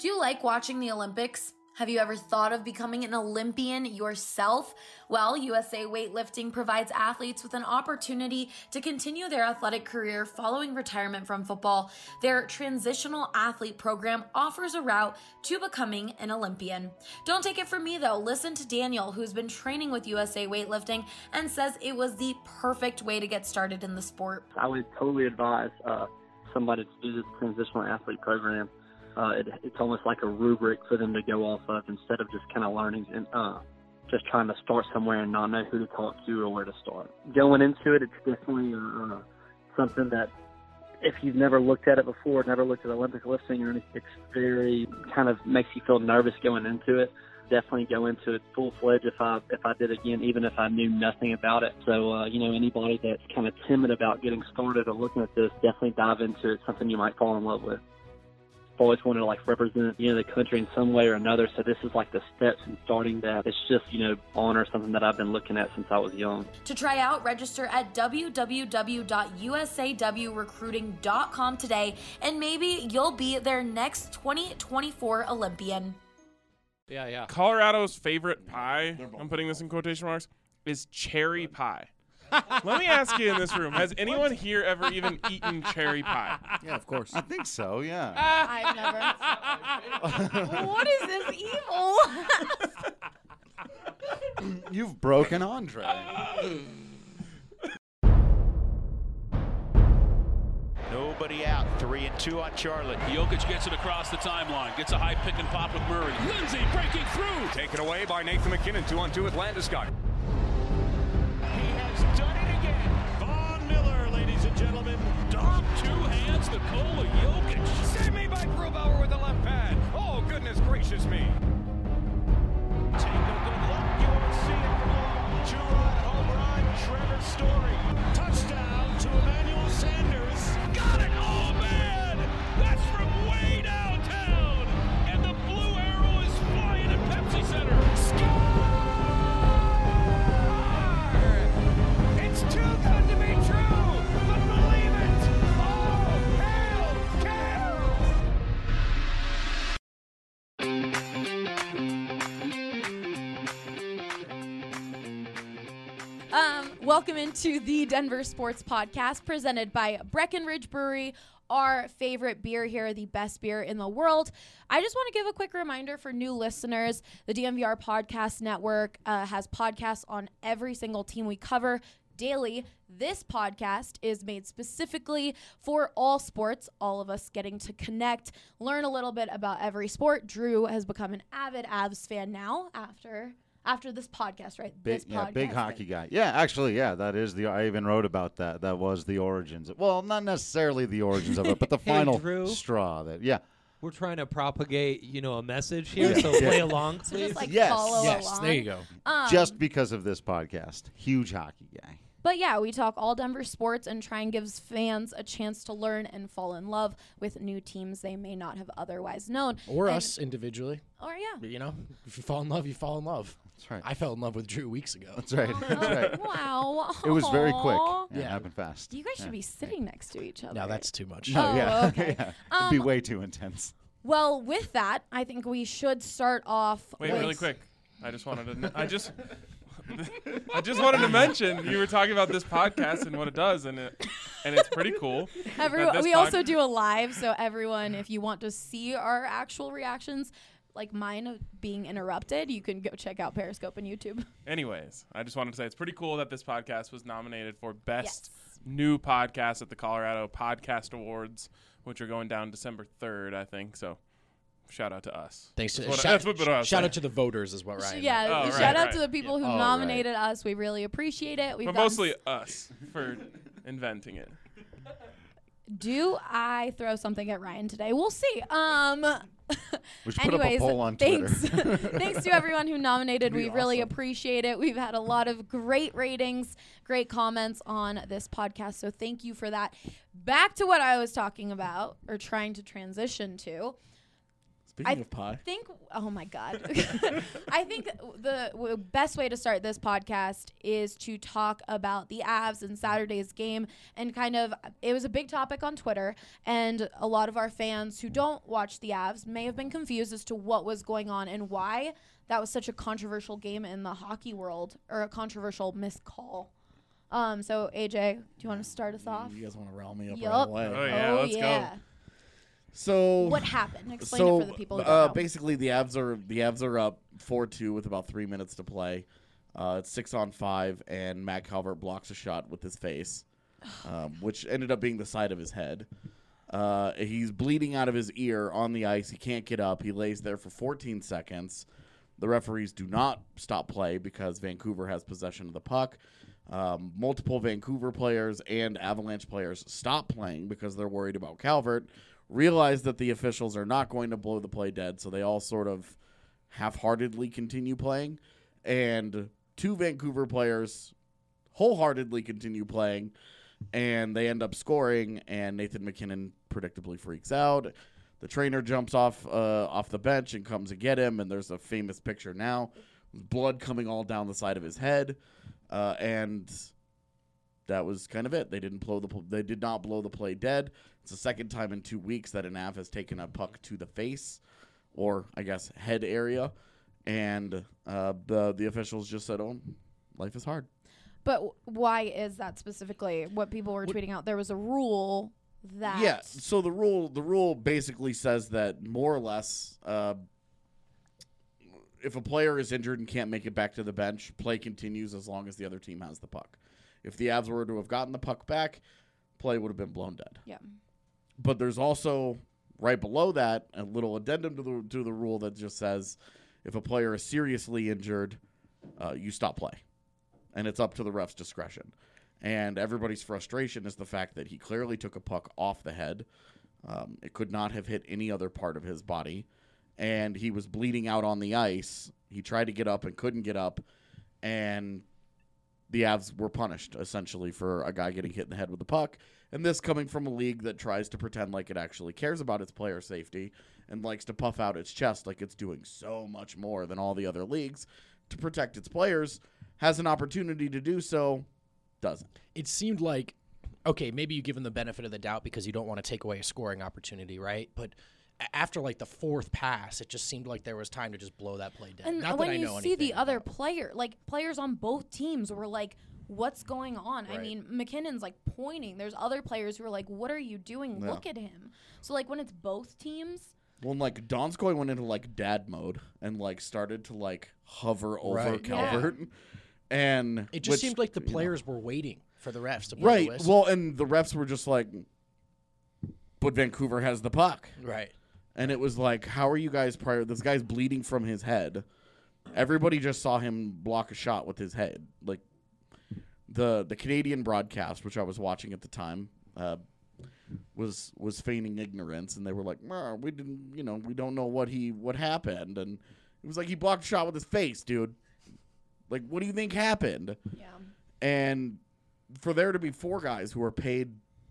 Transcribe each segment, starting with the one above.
Do you like watching the Olympics? Have you ever thought of becoming an Olympian yourself? Well, USA Weightlifting provides athletes with an opportunity to continue their athletic career following retirement from football. Their transitional athlete program offers a route to becoming an Olympian. Don't take it from me though. Listen to Daniel, who's been training with USA Weightlifting and says it was the perfect way to get started in the sport. I would totally advise somebody to do this transitional athlete program. It's almost like a rubric for them to go off of instead of just kind of learning and just trying to start somewhere and not know who to talk to or where to start. Going into it, it's definitely something that if you've never looked at it before, never looked at Olympic lifting or anything, it's very kind of makes you feel nervous going into it. Definitely go into it full-fledged if I did again, even if I knew nothing about it. So, anybody that's kind of timid about getting started or looking at this, definitely dive into it. Something you might fall in love with. I've always wanted to represent, the country in some way or another. So this is like the steps in starting that. It's just, honor something that I've been looking at since I was young. To try out, register at www.usawrecruiting.com today, and maybe you'll be their next 2024 Olympian. Yeah. Colorado's favorite pie, I'm putting this in quotation marks, is cherry pie. Let me ask you in this room, has anyone here ever even eaten cherry pie? Yeah, of course. I think so, yeah. I've never. What is this evil? You've broken Andre. Nobody out. 3-2 on Charlotte. Jokic gets it across the timeline. Gets a high pick and pop with Murray. Lindsay breaking through. Taken away by Nathan McKinnon. 2-on-2 with Landeskog. He has done it again. Von Miller, ladies and gentlemen. Dom, two hands, Nikola Jokic. Save me by Grubauer with the left pad. Oh, goodness gracious me. Take a good look. You won't see it from long. Two-run home run. Trevor Story. Touchdown to Emmanuel Sanders. Got it! Oh, man! That's from way downtown. And the blue arrow is flying at Pepsi Center. Score! It's too good to be true, but believe it. Oh, hail, Welcome into the Denver Sports Podcast presented by Breckenridge Brewery, our favorite beer here, the best beer in the world. I just want to give a quick reminder for new listeners. The DNVR Podcast Network has podcasts on every single team we cover daily. This podcast is made specifically for all sports, all of us getting to connect, learn a little bit about every sport. Drew has become an avid Avs fan now after this podcast, right? Big hockey guy. Yeah, actually, that is I even wrote about that. That was the origins. Well, not necessarily the origins of it, but the final straw. We're trying to propagate, a message here, so play along, please. So just Yes. follow Yes, along. there you go. Just because of this podcast. Huge hockey guy. But yeah, we talk all Denver sports and try and give fans a chance to learn and fall in love with new teams they may not have otherwise known. Or us individually. Or yeah. But, if you fall in love, you fall in love. That's right. I fell in love with Drew weeks ago. That's right. That's right. Wow. It was very quick. Aw. Yeah, it happened fast. You guys should be sitting next to each other. No, that's too much. No, yeah. Okay. Yeah. It'd be way too intense. Well, with that, I think we should start off Wait, with... really quick. I just wanted to I just wanted to mention you were talking about this podcast and what it does, and it's pretty cool. We also do a live, so everyone, if you want to see our actual reactions, like mine of being interrupted, you can go check out Periscope and YouTube. Anyways, I just wanted to say it's pretty cool that this podcast was nominated for Best New Podcast at the Colorado Podcast Awards, which are going down December 3rd, I think. So shout out to us. Thanks to shout out to the voters is what Ryan. Yeah, shout out to the people who nominated us. We really appreciate it. But mostly us for inventing it. Do I throw something at Ryan today? We'll see. We should put up a poll on Twitter. Thanks to everyone who nominated. We really appreciate it. We've had a lot of great ratings, great comments on this podcast, so thank you for that. Back to what I was talking about, or trying to transition to. Speaking of pie. Oh my God. I think the best way to start this podcast is to talk about the Avs and Saturday's game, and it was a big topic on Twitter, and a lot of our fans who don't watch the Avs may have been confused as to what was going on and why that was such a controversial game in the hockey world, or a controversial missed call. So AJ, do you want to start us off? You guys want to rile me up Yup. right away? Oh yeah, let's go. So what happened? Explain it for the people who don't know. Basically, the Avs are up 4-2 with about 3 minutes to play. It's 6-on-5, and Matt Calvert blocks a shot with his face, which ended up being the side of his head. He's bleeding out of his ear on the ice. He can't get up. He lays there for 14 seconds. The referees do not stop play because Vancouver has possession of the puck. Multiple Vancouver players and Avalanche players stop playing because they're worried about Calvert. Realize that the officials are not going to blow the play dead, so they all sort of half-heartedly continue playing. And 2 Vancouver players wholeheartedly continue playing, and they end up scoring, and Nathan MacKinnon predictably freaks out. The trainer jumps off the bench and comes to get him, and there's a famous picture now. Blood coming all down the side of his head, and that was kind of it. They did not blow the play dead. It's the second time in 2 weeks that an Av has taken a puck to the face, or I guess head area, and the officials just said, "Oh, life is hard." But why is that specifically what people were tweeting out? There was a rule that... Yeah, so the rule basically says that more or less if a player is injured and can't make it back to the bench, play continues as long as the other team has the puck. If the Avs were to have gotten the puck back, play would have been blown dead. Yeah. But there's also, right below that, a little addendum to the rule that just says if a player is seriously injured, you stop play. And it's up to the ref's discretion. And everybody's frustration is the fact that he clearly took a puck off the head. It could not have hit any other part of his body. And he was bleeding out on the ice. He tried to get up and couldn't get up. And the Avs were punished, essentially, for a guy getting hit in the head with the puck. And this coming from a league that tries to pretend like it actually cares about its player safety and likes to puff out its chest like it's doing so much more than all the other leagues to protect its players, has an opportunity to do so, doesn't. It seemed like, okay, maybe you give them the benefit of the doubt because you don't want to take away a scoring opportunity, right? But after like the 4th pass, it just seemed like there was time to just blow that play dead. And Not when that I you know see anything the other player, like players on both teams were like, what's going on? Right. I mean, McKinnon's like pointing. There's other players who are like, what are you doing? Yeah. Look at him. So like when it's both teams. Well, like Donskoy went into like dad mode and like started to like hover over Right. Calvert. Yeah. And It just seemed like the players were waiting for the refs to blow right. the whistle. Well, and the refs were just like, but Vancouver has the puck. Right. And it was like, how are you guys this guy's bleeding from his head. Everybody just saw him block a shot with his head. Like the Canadian broadcast, which I was watching at the time, was feigning ignorance, and they were like, we didn't, we don't know what happened. And it was like, he blocked a shot with his face, dude. Like, what do you think happened? Yeah. And for there to be 4 guys who are paid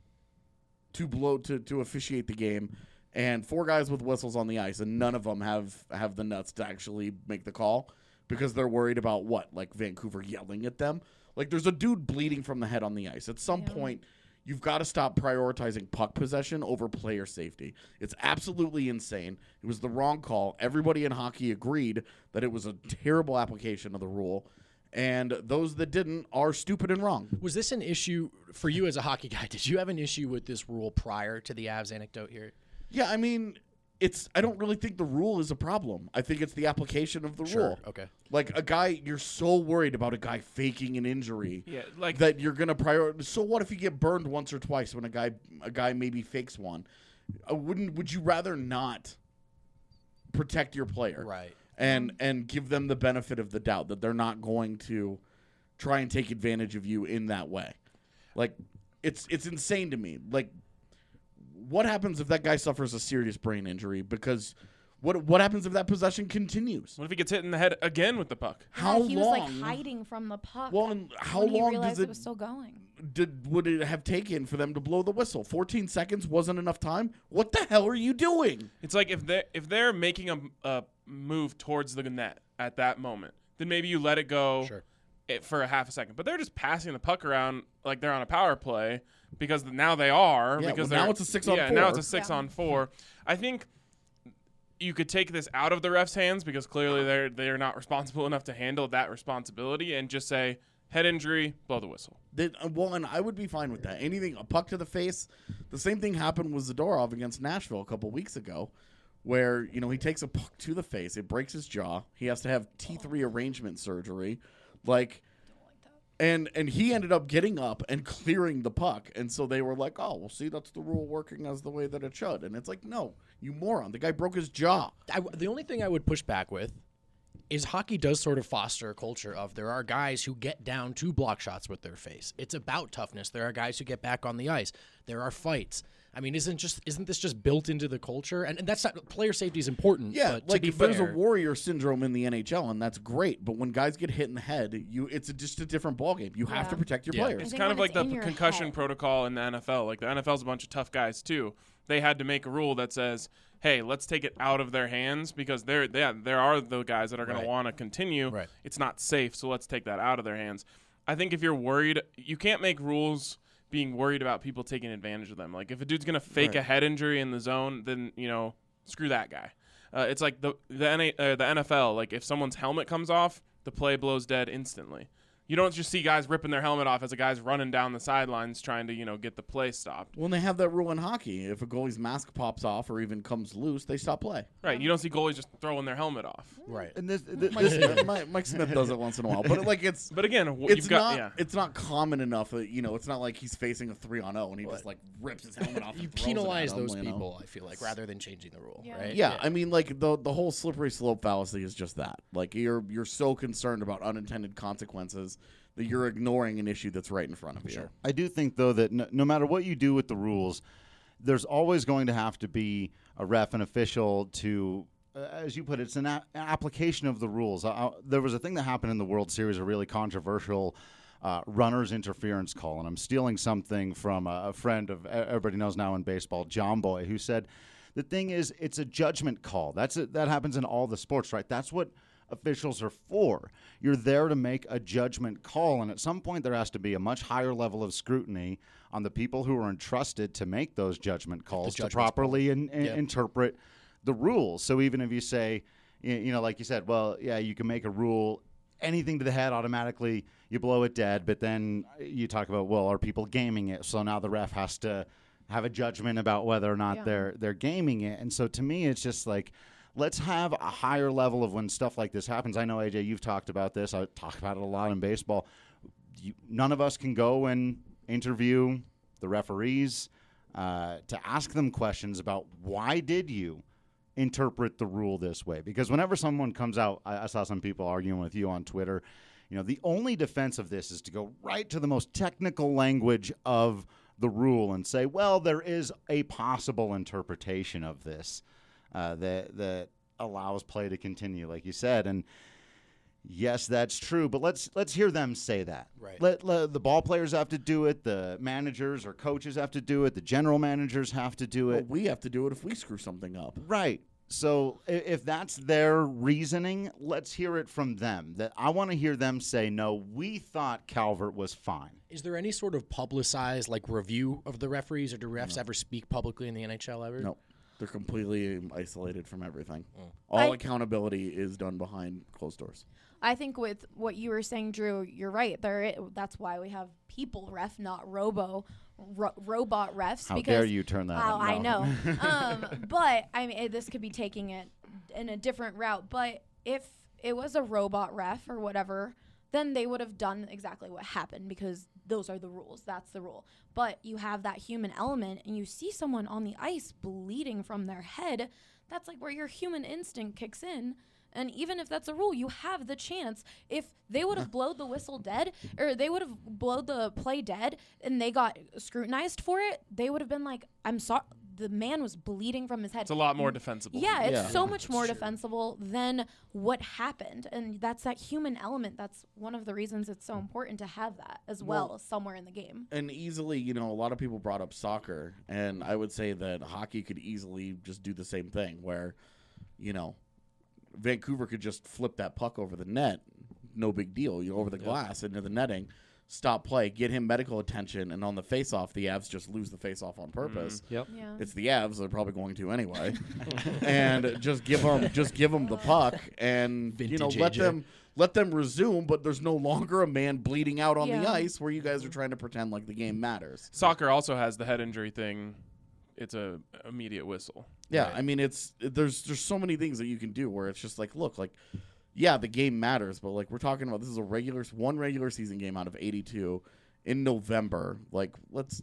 to officiate the game, and 4 guys with whistles on the ice, and none of them have the nuts to actually make the call because they're worried about what? Like Vancouver yelling at them? Like, there's a dude bleeding from the head on the ice. At some point, you've got to stop prioritizing puck possession over player safety. It's absolutely insane. It was the wrong call. Everybody in hockey agreed that it was a terrible application of the rule. And those that didn't are stupid and wrong. Was this an issue for you as a hockey guy? Did you have an issue with this rule prior to the Avs anecdote here? Yeah, I mean, I don't really think the rule is a problem. I think it's the application of the rule. Okay. Like a guy, you're so worried about a guy faking an injury that you're going to prioritize. So what if you get burned once or twice when a guy maybe fakes one? Would you rather not protect your player? Right. And give them the benefit of the doubt that they're not going to try and take advantage of you in that way. Like, it's insane to me. Like, what happens if that guy suffers a serious brain injury? Because What happens if that possession continues? What if he gets hit in the head again with the puck? How he long? was like hiding from the puck. Well, and how when he long realized does it was still going? would it have taken for them to blow the whistle? 14 seconds wasn't enough time. What the hell are you doing? It's like if they're making a move towards the net at that moment, then maybe you let it go for a half a second. But they're just passing the puck around like they're on a power play because now they are. Yeah, because now it's a 6-on-4. Yeah, now it's a 6-on-4. I think you could take this out of the refs' hands because clearly they're not responsible enough to handle that responsibility and just say head injury, blow the whistle. And I would be fine with that. Anything, a puck to the face. The same thing happened with Zadorov against Nashville a couple weeks ago, where he takes a puck to the face, it breaks his jaw. He has to have T3 arrangement surgery, and he ended up getting up and clearing the puck, and so they were like, "Oh, well, see, that's the rule working as the way that it should." And it's like, no, you moron, the guy broke his jaw. The only thing I would push back with is hockey does sort of foster a culture of there are guys who get down to block shots with their face. It's about toughness. There are guys who get back on the ice. There are fights. I mean, isn't this just built into the culture? And that's not, player safety is important. Yeah, but to be there's a fair, warrior syndrome in the NHL, and that's great. But when guys get hit in the head, it's just a different ballgame. You have to protect your players. It's kind of like the concussion protocol in the NFL. Like the NFL's a bunch of tough guys too. They had to make a rule that says, hey, let's take it out of their hands because there are the guys that are going to want to continue. Right. It's not safe, so let's take that out of their hands. I think if you're worried, you can't make rules being worried about people taking advantage of them. Like if a dude's going to fake a head injury in the zone, then, screw that guy. It's like the NFL. Like if someone's helmet comes off, the play blows dead instantly. You don't just see guys ripping their helmet off as a guy's running down the sidelines trying to, get the play stopped. When they have that rule in hockey, if a goalie's mask pops off or even comes loose, they stop play. Right. You don't see goalies just throwing their helmet off. Right. And Mike Smith does it once in a while, but But again, it's not common enough. It's not like he's facing a 3-on-0 and he just rips his helmet off. You and throws penalize it at him, those people, I feel like, rather than changing the rule. Yeah. Right? Yeah, I mean, the whole slippery slope fallacy is just that. Like you're so concerned about unintended consequences that you're ignoring an issue that's right in front of you. Sure. I do think, though, that no matter what you do with the rules, there's always going to have to be a ref, an official to, as you put it, it's an application of the rules. There was a thing that happened in the World Series, a really controversial runner's interference call, and I'm stealing something from a friend of everybody knows now in baseball, John Boy, who said, the thing is, it's a judgment call. That happens in all the sports, right? That's what officials are for. You're there to make a judgment call, and at some point there has to be a much higher level of scrutiny on the people who are entrusted to make those judgment calls to properly interpret the rules. So even if you say, like you said, well, yeah, you can make a rule, anything to the head automatically you blow it dead, but then you talk about, well, are people gaming it? So now the ref has to have a judgment about whether or not they're gaming it. And so to me, it's just like, let's have a higher level of when stuff like this happens. I know, AJ, you've talked about this. I talk about it a lot in baseball. None of us can go and interview the referees to ask them questions about why did you interpret the rule this way? Because whenever someone comes out, I saw some people arguing with you on Twitter, the only defense of this is to go right to the most technical language of the rule and say, well, there is a possible interpretation of this that allows play to continue, like you said. And yes, that's true, but let's hear them say that. Right. Let the ball players have to do it, the managers or coaches have to do it, the general managers have to do it. Well, we have to do it if we screw something up. Right. So if that's their reasoning, let's hear it from them. That I want to hear them say, no, we thought Calvert was fine. Is there any sort of publicized review of the referees, or do refs ever speak publicly in the NHL ever? No. They're completely isolated from everything. All accountability is done behind closed doors. I think with what you were saying, Drew, you're right. That's why we have people ref, not robot refs. How dare you turn that on? I know. But, I mean, this could be taking it in a different route. But if it was a robot ref or whatever, then they would have done exactly what happened because those are the rules. That's the rule. But you have that human element and you see someone on the ice bleeding from their head. That's like where your human instinct kicks in. And even if that's a rule, you have the chance. If they would have blowed the whistle dead, or they would have blowed the play dead, and they got scrutinized for it, they would have been like, I'm sorry, the man was bleeding from his head. It's a lot more defensible. Yeah, it's Yeah. so much more defensible than what happened. And that's that human element. That's one of the reasons it's so important to have that as well somewhere in the game. And easily, you know, a lot of people brought up soccer, and I would say that hockey could easily just do the same thing where, you know, Vancouver could just flip that puck over the net, no big deal, you know, over the glass into the netting, stop play, get him medical attention, and on the face-off, the Avs just lose the face-off on purpose. Yep. Yeah. It's the Avs; they're probably going to anyway, and just give them the puck, and you know, Vintage let them resume. But there's no longer a man bleeding out on the Yeah. ice where you guys are trying to pretend like the game matters. Soccer also has the head injury thing. It's a immediate whistle. Yeah, I mean, there's so many things that you can do where it's just like, look, like, yeah, the game matters, but like we're talking about, this is one regular season game out of 82 in November. Like, let's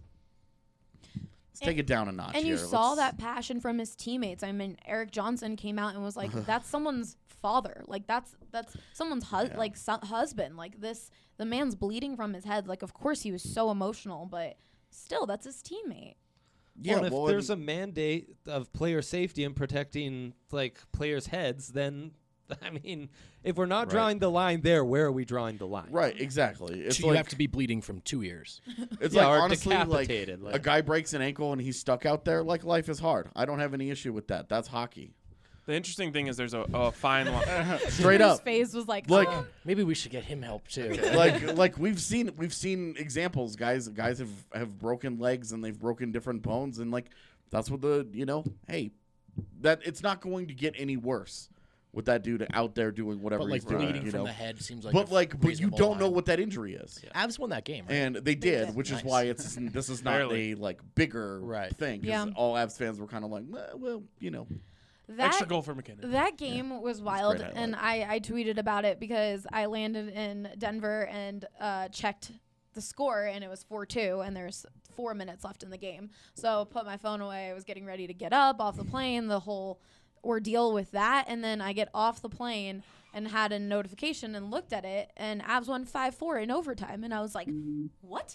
take it down a notch. And here. you saw Let's- that passion from his teammates. I mean, Eric Johnson came out and was like, "That's someone's father. Like that's someone's husband. Like the man's bleeding from his head. Like, of course he was so emotional, but still, that's his teammate." Yeah, and if well, there's a mandate of player safety and protecting like players' heads, then I mean, if we're not drawing the line there, where are we drawing the line? right, exactly. It's So you have to be bleeding from 2 ears. It's Yeah, like, or honestly, like, decapitated, like- a guy breaks an ankle and he's stuck out there. Like, life is hard. I don't have any issue with that. That's hockey. The interesting thing is there's a fine line. Straight His up. face was like, Like, "Oh." Maybe we should get him help too. like we've seen examples. Guys have broken legs and they've broken different bones, and like that's what hey, that it's not going to get any worse with that dude out there doing whatever But like he's doing. bleeding you from know? the head seems like. But you reasonable don't know line. what that injury is. Avs won that game, right? And they did, which Nice. is why this is not Barely. a like bigger Right. thing. 'Cause Yeah. all Avs fans were kind of like, well, you know. Extra goal for McKinnon. That game was wild, great and I tweeted about it because I landed in Denver and checked the score, and it was 4-2, and there's 4 minutes left in the game. So put my phone away. I was getting ready to get up off the plane, the whole ordeal with that, and then I get off the plane and had a notification and looked at it, and Avs won 5-4 in overtime, and I was like, what?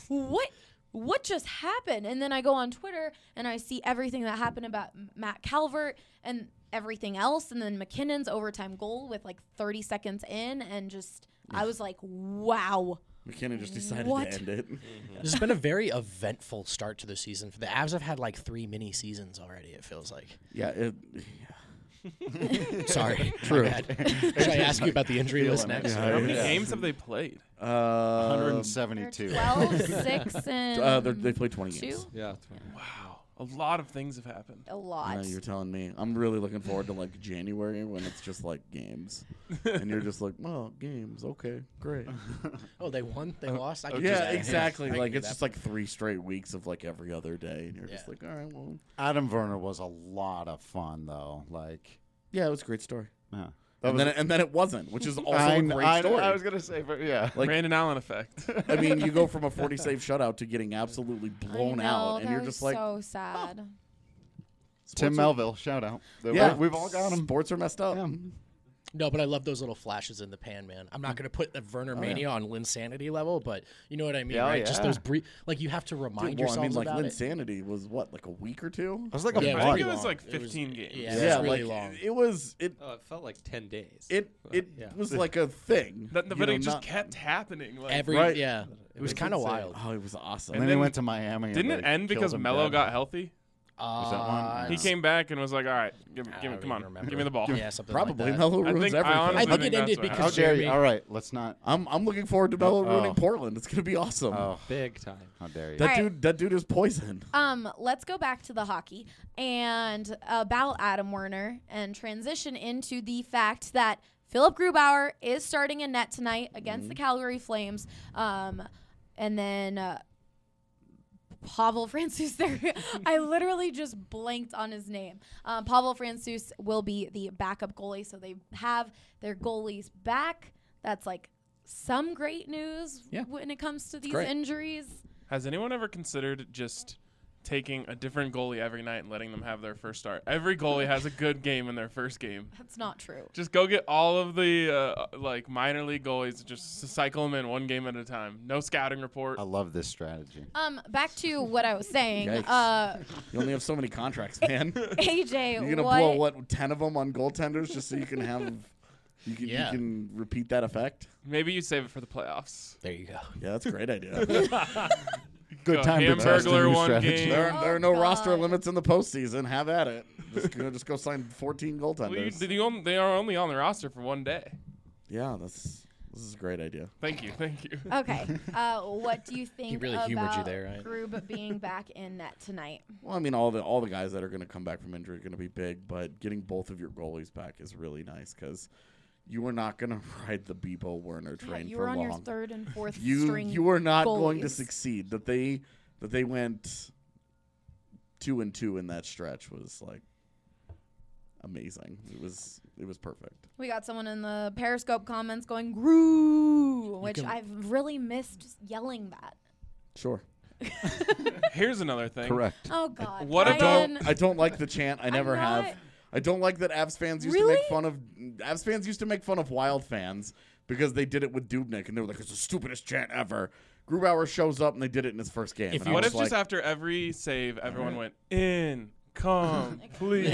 What just happened? And then I go on Twitter and I see everything that happened about Matt Calvert and everything else, and then McKinnon's overtime goal with like 30 seconds in, and just I was like, wow. McKinnon just decided What? to end it. This has been a very eventful start to the season. For the Avs have had like 3 mini seasons already, it feels like. Yeah. Sorry. True. My bad. Should I ask you about the injury list next? How many games have they played? 172. 12, 6, and They played 20 2? games. Yeah. Wow. A lot of things have happened. A lot. You're telling me. I'm really looking forward to like January when it's just like games, and you're just like, well, games, okay, great. Oh, they won? They lost? I could Yeah, just- exactly. I can Like do it's that. just like 3 straight weeks of like every other day, and you're just Yeah. like, all right, well, Adam Werner was a lot of fun, though. Like, yeah, it was a great story. yeah. And then it wasn't, which is also a great story. I was gonna say, but yeah. Like, Brandon Allen effect. I mean, you go from a 40 save shutout to getting absolutely blown I know, out, and that you're was just like, so sad. Tim sports are- Melville, shout out. Yeah, We've all got him. Sports are messed up. Yeah. No, but I love those little flashes in the pan, man. I'm not going to put the Werner Mania on Linsanity level, but you know what I mean, Yeah, right? Just yeah. those brief, like you have to remind Well, I yourselves mean, like about it. Linsanity was what, like a week or two? It was like Yeah, a it was I month. think it pretty was long. like 15 games. Yeah, it was really like long. it was Oh, it felt like 10 days. it Yeah. was like a thing. But you know, it just not- kept happening. Like, Every Right. yeah, it was kind of insane. wild. Oh, it was awesome. And And then he then- went to Miami. and didn't they it end killed because him Melo dead. got healthy? Was that one? He came back and was like, "All right, I don't come even on, remember. give me the ball." Yeah, something Probably like that. Melo I ruins think- I everything. honestly I think think it ended that's what because How dare you? Jeremy. All right, let's not. I'm looking forward to Melo ruining Oh. Portland. It's gonna be awesome. Oh, Big time. how dare you? That All right. dude is poison. Let's go back to the hockey and about Adam Werner and transition into the fact that Philip Grubauer is starting in net tonight against the Calgary Flames. And then Pavel Francouz there. I literally just blanked on his name. Pavel Francouz will be the backup goalie, so they have their goalies back. That's like some great news Yeah. when it comes to these great. injuries. Has anyone ever considered just taking a different goalie every night and letting them have their first start. Every goalie has a good game in their first game. That's not true. Just go get all of the minor league goalies, just cycle them in one game at a time. No scouting report. I love this strategy. Back to what I was saying. Yikes. You only have so many contracts, man. AJ, You're gonna blow 10 of them on goaltenders just so you can have you can repeat that effect. Maybe you save it for the playoffs. There you go. Yeah, that's a great idea. Good time to test a Hamburglar new one strategy. game. There are no roster limits in the postseason. Have at it. Just go sign 14 goaltenders. They are only on the roster for one day. Yeah, this is a great idea. Thank you. Okay. What do you think He really about humored you there, right? Grub being back in net tonight? Well, I mean, all the guys that are going to come back from injury are going to be big, but getting both of your goalies back is really nice because you are not going to ride the Bebo Werner train you for were on long. your third and fourth You string. you are not goalies. going to succeed. That they went 2-2 in that stretch was like amazing. It was perfect. We got someone in the Periscope comments going "Groo," which I've really missed just yelling that. Sure. Here's another thing. Correct. Oh God. What Ryan. I don't like the chant. I never have. I don't like that Avs fans used to make fun of Avs fans used to make fun of Wild fans because they did it with Dubnyk and they were like, it's the stupidest chant ever. Grubauer shows up and they did it in his first game. What if just after every save everyone went in, come, please?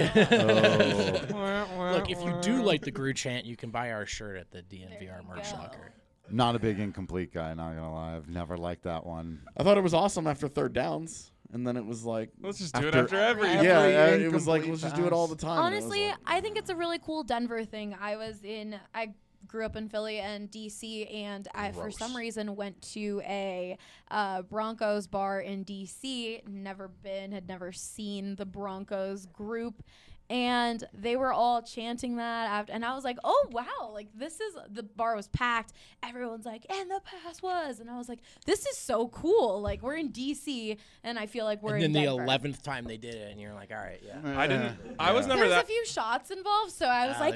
Look, if you do like the Gru chant, you can buy our shirt at the DNVR merch locker. Not a big incomplete guy, not gonna lie. I've never liked that one. I thought it was awesome after third downs. And then it was like, let's just do it after every. Yeah, it was like, let's just do it all the time. Honestly, I think it's a really cool Denver thing. I grew up in Philly and DC, and I, for some reason, went to a Broncos bar in DC. Had never seen the Broncos group. And they were all chanting that after, and I was like, "Oh wow! Like the bar was packed. Everyone's like, and the pass was." And I was like, "This is so cool! Like we're in DC, and I feel like we're in Denver." And then the 11th time they did it, and you're like, "All right, yeah." I was never There's that. a few shots involved, so I was like,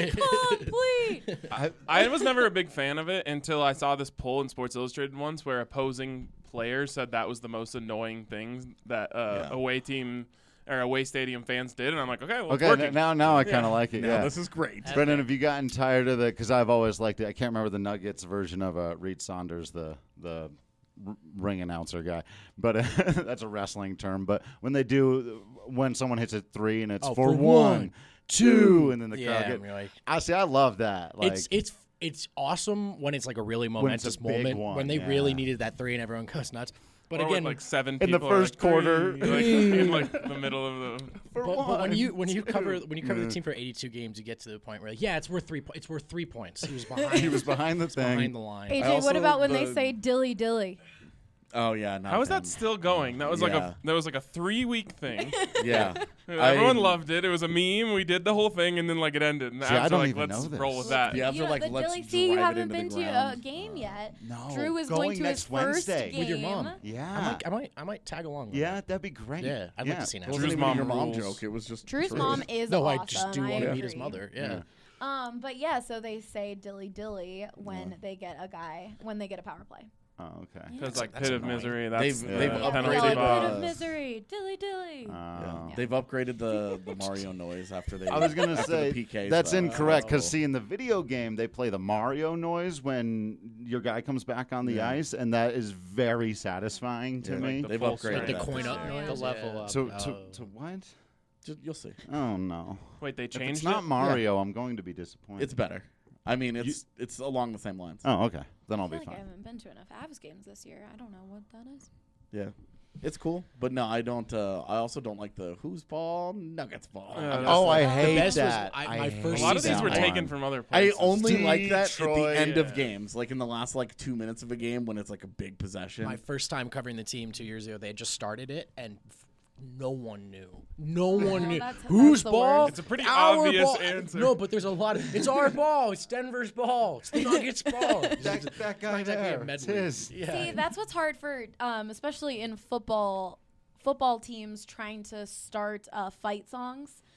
"Complete." I was never a big fan of it until I saw this poll in Sports Illustrated once where opposing players said that was the most annoying thing that away team. Or away stadium fans did, and I'm like, okay, well, it's working. Now I kind of like it. Yeah, this is great. Brendan, have you gotten tired of because I've always liked it. I can't remember the Nuggets version of Reed Saunders, the ring announcer guy, but that's a wrestling term. But when someone hits a three and it's for 1, 2, and then the crowd I love that. Like it's awesome when it's like a really momentous moment when they really needed that three and everyone goes nuts. But or again, like 7 in people the first quarter, in like the middle of the. But when you cover the team for 82 games, you get to the point where it's worth 3 points. It's worth 3 points. He was behind. He was behind the thing. Behind the line. AJ, what about when they say "dilly dilly"? Oh yeah, how is that still going? That was like a 3-week thing. Yeah, everyone loved it. It was a meme. We did the whole thing, and then like it ended. And I don't like, even let's know this. roll with that. The Avs are like, the let's dilly. drive See, you it haven't into been the to ground. a game yet. No, Drew is going to his next first Wednesday game with your mom. Yeah, I might tag along. Yeah, that'd be great. Yeah, I'd like to see that. It wasn't even your mom joke. It was just Drew's mom is no, awesome. I just do want to meet his agree. mother. Yeah. But yeah, so they say "dilly dilly" when they get a power play. Oh, okay. Because like That's Pit of annoying. Misery, that's They've Yeah, upgraded Pit the- of Misery, dilly dilly. They've upgraded the Mario noise after they. I was gonna after say the PKs, that's though. incorrect because see in the video game they play the Mario noise when your guy comes back on the ice, and that is very satisfying to me. Like They've full upgraded strength. The that coin this up year. noise, The level up. To what? You'll see. Oh no! Wait, they If changed it's not it? Mario, I'm going to be disappointed. It's better. I mean, it's along the same lines. Oh, okay. Then I'll I feel be like I fine. haven't been to enough Avs games this year. I don't know what that is. Yeah, it's cool. But no, I don't. I also don't like the whose ball, Nuggets ball. Oh, I hate best was that. my I first A lot of these season were one. taken from other I places. only like that at the Detroit. end of games, like in the last 2 minutes of a game when it's like a big possession. My first time covering the team 2 years ago, they had just started it, and no one knew. No one knew. That's Whose the ball? worst. It's a pretty Our obvious ball. answer. No, but there's a lot of. It's our ball. It's Denver's ball. It's the Nuggets' ball. that guy It's like a there. medley. It's his. Yeah. See, that's what's hard for, especially in football teams trying to start fight songs.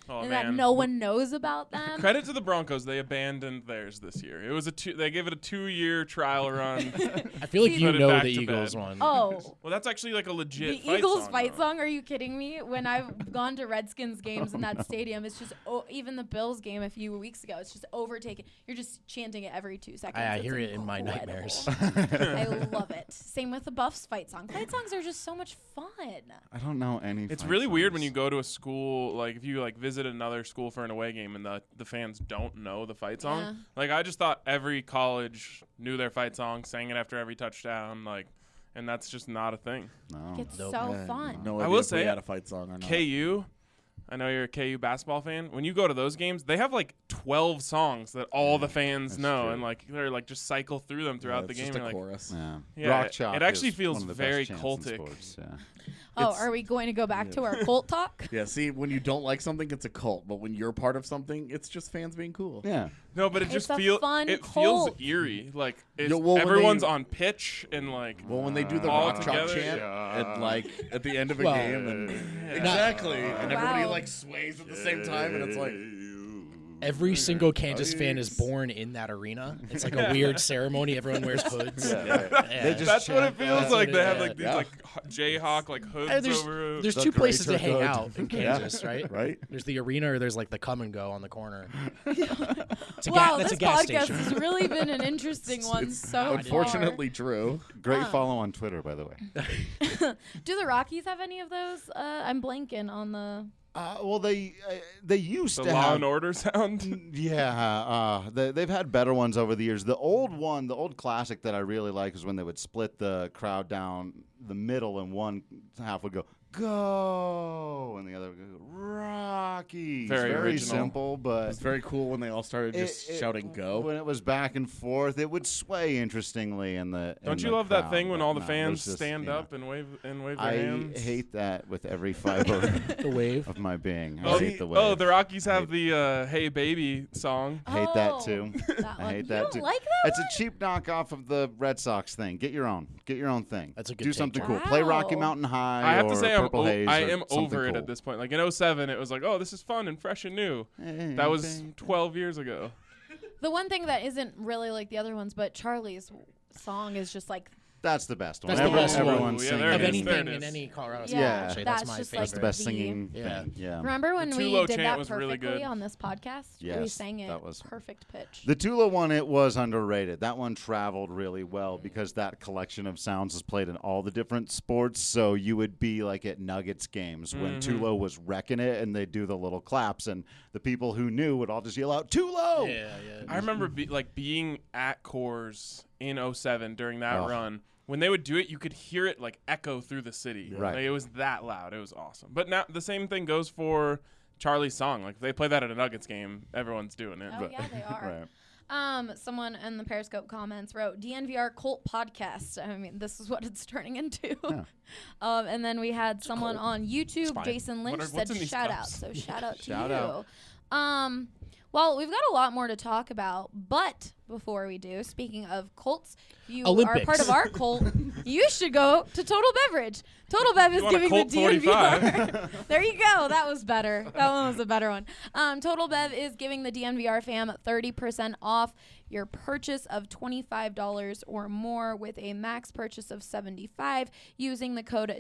Oh, and man. that no one knows about them. Credit to the Broncos, they abandoned theirs this year. It was they gave it a 2-year trial run. I feel like See, you put it know back the to Eagles bed. one. Oh. Well, that's actually like a legit The fight Eagles song, fight though. song? Are you kidding me? When I've gone to Redskins games in that stadium, it's just even the Bills game a few weeks ago. It's just overtaken. You're just chanting it every 2 seconds. I It's hear it in my incredible. nightmares. I love it. Same with the Buffs fight song. Fight songs are just so much fun. I don't know any. It's fight really weird when songs. you go to a school, like if you like visit another school for an away game and the fans don't know the fight song. Yeah. Like I just thought every college knew their fight song, sang it after every touchdown, like, and that's just not a thing. No. It's Nope. so Yeah, fun. No I idea will if we say had a fight song or not. KU, I know you're a KU basketball fan. When you go to those games, they have like 12 songs that all the fans that's know, true. and like they're like just cycle through them throughout the it's game. just a You're like, chorus. Yeah. Yeah, Rock it chalk actually is feels one of the very best chants in cultic. sports, yeah. Oh, It's- are we going to go back to our Colt talk? Yeah, see, when you don't like something, it's a cult. But when you're part of something, it's just fans being cool. Yeah. No, but it It's just a feels fun it cult. feels eerie. Like it's, Yeah, well, when everyone's they- on pitch and like Well, when they do the all rock chalk together, chant at like at the end of a Well, game, and exactly, and everybody like sways at the same time, and it's like Every single Kansas fan is born in that arena. It's like a weird ceremony. Everyone wears hoods. They just that's what it chant feels that. like. They have Yeah. like these like Jayhawk like hoods And over. there's The two places to greater hang good. out in Kansas, right? right. There's the arena, or there's like the come and go on the corner. It's a Wow, that's this a gas podcast station. has really been an interesting one so Unfortunately, true. Great follow on Twitter, by the way. far. Do the Rockies have any of those? I'm blanking on the. Well, they used the to Law have. and Order sound. Yeah, they've had better ones over the years. The old classic that I really like is when they would split the crowd down the middle, and one half would go, and the other would go, Rockies. Very original. simple, but It's very cool when they all started just shouting "Go." When it was back and forth, it would sway interestingly in the. Don't in you the love that crowd, thing when but all the no, fans it's just, stand you know, up and wave their I hands? hate that with every fiber The wave. of my being. I Oh, hate the wave. oh, the Rockies have the "Hey Baby" song. Hate that too. That I one. hate You that don't too. like that It's one? a cheap knockoff of the Red Sox thing. Get your own. Get your own thing. That's a good Do take, something John. cool. Play Rocky Wow. Mountain High. I have or to say Purple Haze I or am something over it cool. at this point. Like in 07, it was like, oh, this is fun and fresh and new. That was 12 years ago. The one thing that isn't really like the other ones, but Charlie's song is just like. That's the best one. That's the best one. Everyone's Yeah, singing. there Of it is. anything There it in is. any Colorado song, Yeah, actually, that's that's my just favorite. like That's the best the- singing Yeah. thing. Yeah. Remember when The we Tulo did chant that was really perfectly good. on this podcast? We Yes, sang it that was- perfect pitch. The Tula one, it was underrated. That one traveled really well because that collection of sounds is played in all the different sports. So you would be like at Nuggets games when Tulo was wrecking it, and they'd do the little claps, and the people who knew would all just yell out Tulo. Yeah, yeah. I remember being at Coors in 07 during that Oh. run. When they would do it, you could hear it like echo through the city. Right. Like, it was that loud. It was awesome. But now the same thing goes for Charlie's song. Like if they play that at a Nuggets game, everyone's doing it. Oh, But yeah, they are. Right. Someone in the Periscope comments wrote DNVR Cult Podcast. I mean, this is what it's turning into. Yeah. And then we had someone on YouTube, fine. Jason Lynch, What's said in these shout out. cups? So shout out to Shout you. out. Well, we've got a lot more to talk about, but before we do, speaking of cults, you Olympics. are part of our cult. You should go to Total Beverage. Total Bev is want a giving Colt the DNVR. 45? There you go. That was better. That one was a better one. Total Bev is giving the DNVR fam 30% off your purchase of $25 or more with a max purchase of $75 using the code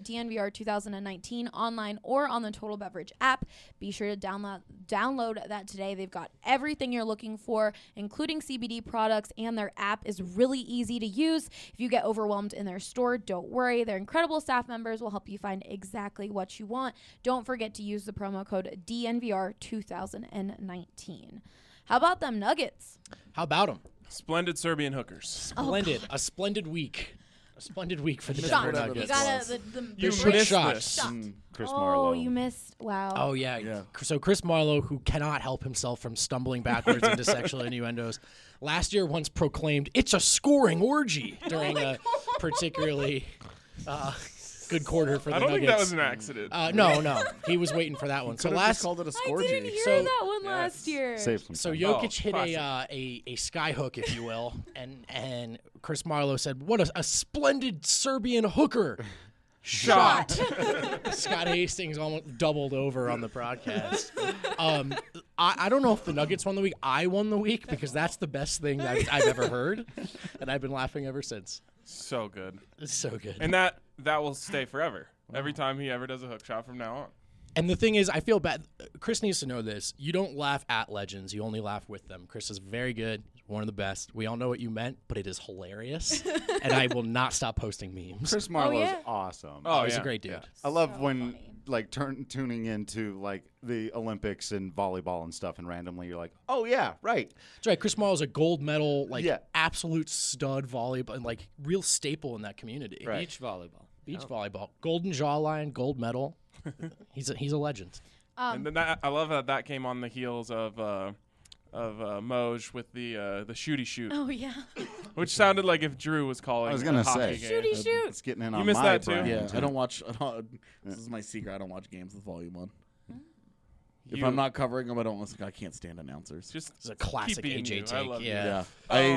DNVR2019 online or on the Total Beverage app. Be sure to download that today. They've got everything you're looking for, including CBD products, and their app is really easy to use. If you get overwhelmed in their store, don't worry. Their incredible staff members will help you find exactly what you want. Don't forget to use the promo code DNVR2019. How about them Nuggets? How about them? Splendid Serbian hookers. Oh, Splendid. A splendid week. A splendid week for the Shot. Denver You Nuggets. gotta You Quick missed shots. this. Shot. Chris Oh, Marlowe. you missed. Wow. Oh, yeah. Yeah. So Chris Marlowe, who cannot help himself from stumbling backwards into sexual innuendos, last year once proclaimed, "It's a scoring orgy" during a particularly good quarter for the I don't Nuggets. think that was an accident. No. He was waiting for that one. So Could have just last called it a I scorgy. didn't hear So- that one last year. Save some So time. Jokic hit classic. a sky hook, if you will, and Chris Marlowe said, "What a splendid Serbian hooker." Shot. Scott Hastings almost doubled over on the broadcast. I don't know if the Nuggets won the week. I won the week because that's the best thing that I've ever heard, and I've been laughing ever since. So good. It's so good. And that will stay forever. Every time he ever does a hook shot from now on. And the thing is, I feel bad. Chris needs to know this. You don't laugh at legends. You only laugh with them. Chris is very good. He's one of the best. We all know what you meant, but it is hilarious. And I will not stop posting memes. Chris Marlowe's awesome. Oh, he's a great dude. Yeah. I love when like tuning into like the Olympics and volleyball and stuff, and randomly you're like, oh yeah, right. That's right. Chris Marlowe's a gold medal, absolute stud volleyball, and like real staple in that community. Right. Beach volleyball. Volleyball. Golden jawline, gold medal. He's a legend. And then I love that came on the heels of Moj with the shooty shoot. Oh yeah. Which sounded like if Drew was calling. I was gonna say shooty shoot. It's getting in you on missed my that too. brain. Yeah, I don't watch. This is my secret. I don't watch games with volume on. If I'm not covering them, I don't listen. I can't stand announcers. It's a classic AJ take. Yeah.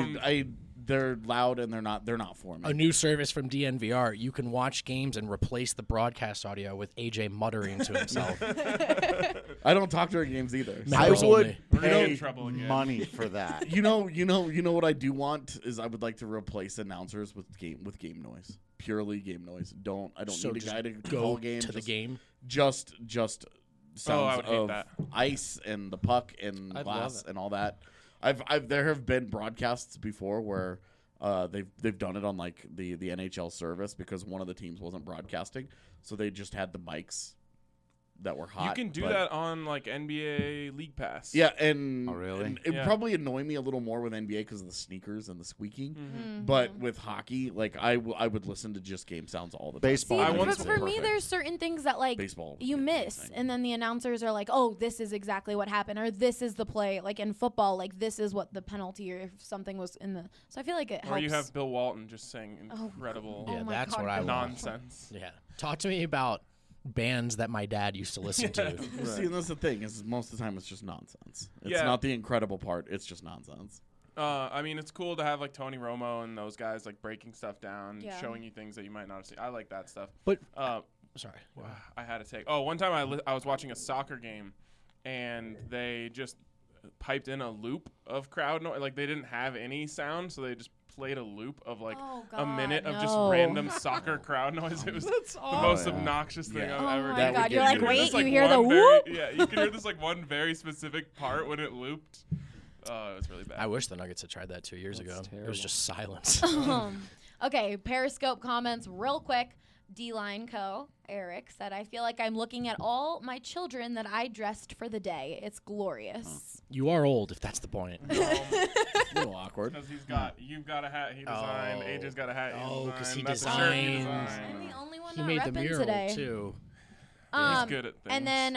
They're loud and they're not for me. A new service from DNVR. You can watch games and replace the broadcast audio with AJ muttering to himself. I don't talk during games either. I would pay money for that. You know what I do want is I would like to replace announcers with game noise. Purely game noise. I don't need a guy to go call games to the game. Just sounds of that. ice and the puck and glass and all that. There have been broadcasts before where they've done it on like the NHL service because one of the teams wasn't broadcasting, so they just had the mics that were hot. You can do that on like NBA League Pass. Yeah, and oh really? And it would probably annoy me a little more with NBA because of the sneakers and the squeaking. Mm-hmm. But with hockey, like I would listen to just game sounds all the time. Baseball. See, but for me, there's certain things that like you miss, and then the announcers are like, "Oh, this is exactly what happened," or "This is the play." Like in football, like this is what the penalty, or if something was in the. So I feel like it helps. Or you have Bill Walton just saying incredible. Yeah, that's what I want. Nonsense. Yeah, talk to me about bands that my dad used to listen to. Right. See, and that's the thing is most of the time it's just nonsense. It's not the incredible part. It's just nonsense. I mean, it's cool to have like Tony Romo and those guys like breaking stuff down, showing you things that you might not have seen. I like that stuff. But sorry, I had to take. Oh, one time I was watching a soccer game, and they just piped in a loop of crowd noise. Like they didn't have any sound, so they just played a loop of like a minute of just random soccer crowd noise. It was the most obnoxious thing I've ever done. Oh my god! You're like, wait, you hear the whoop? Yeah, you can hear this like one very specific part when it looped. It was really bad. I wish the Nuggets had tried that 2 years ago. Terrible. It was just silence. Okay, Periscope comments real quick. D-Line Co. Eric said, I feel like I'm looking at all my children that I dressed for the day. It's glorious. You are old, if that's the point. A little awkward. Because you've got a hat he designed. AJ's got a hat he designed. Because he That's designed. I'm the only one he not made the repping mural, today. too. He's good at things. And then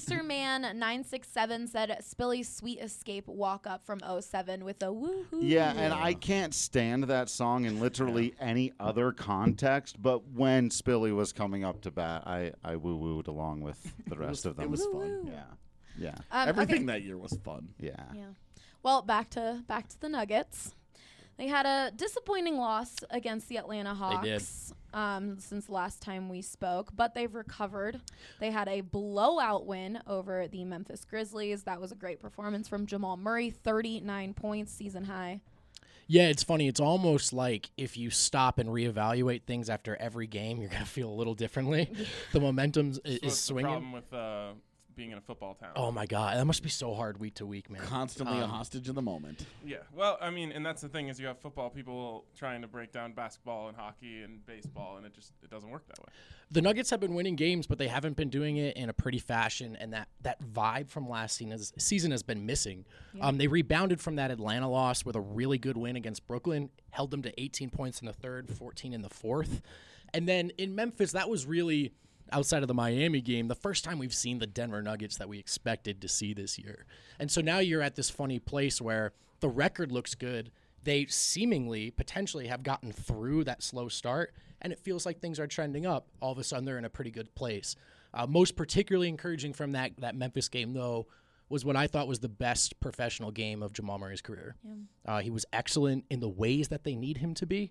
RacerMan967 said Spilly's Sweet Escape walk up from 07 with a woohoo. Yeah, and I can't stand that song in literally any other context, but when Spilly was coming up to bat, I woo-wooed along with the rest of them. It was fun. Yeah. Everything that year was fun. Yeah. Well, back to the Nuggets. They had a disappointing loss against the Atlanta Hawks. They did. Since last time we spoke, but they've recovered. They had a blowout win over the Memphis Grizzlies. That was a great performance from Jamal Murray, 39 points, season high. Yeah, it's funny. It's almost like if you stop and reevaluate things after every game, you're going to feel a little differently. The momentum is swinging. The problem with being in a football town. Oh, my God. That must be so hard week to week, man. Constantly a hostage in the moment. Yeah. Well, I mean, and that's the thing is you have football people trying to break down basketball and hockey and baseball, and it doesn't work that way. The Nuggets have been winning games, but they haven't been doing it in a pretty fashion, and that vibe from last season has been missing. Yeah. They rebounded from that Atlanta loss with a really good win against Brooklyn, held them to 18 points in the third, 14 in the fourth. And then in Memphis, that was really, outside of the Miami game, the first time we've seen the Denver Nuggets that we expected to see this year. And so now you're at this funny place where the record looks good. They seemingly, potentially have gotten through that slow start, and it feels like things are trending up. All of a sudden, they're in a pretty good place. Most particularly encouraging from that Memphis game, though, was what I thought was the best professional game of Jamal Murray's career. Yeah. He was excellent in the ways that they need him to be,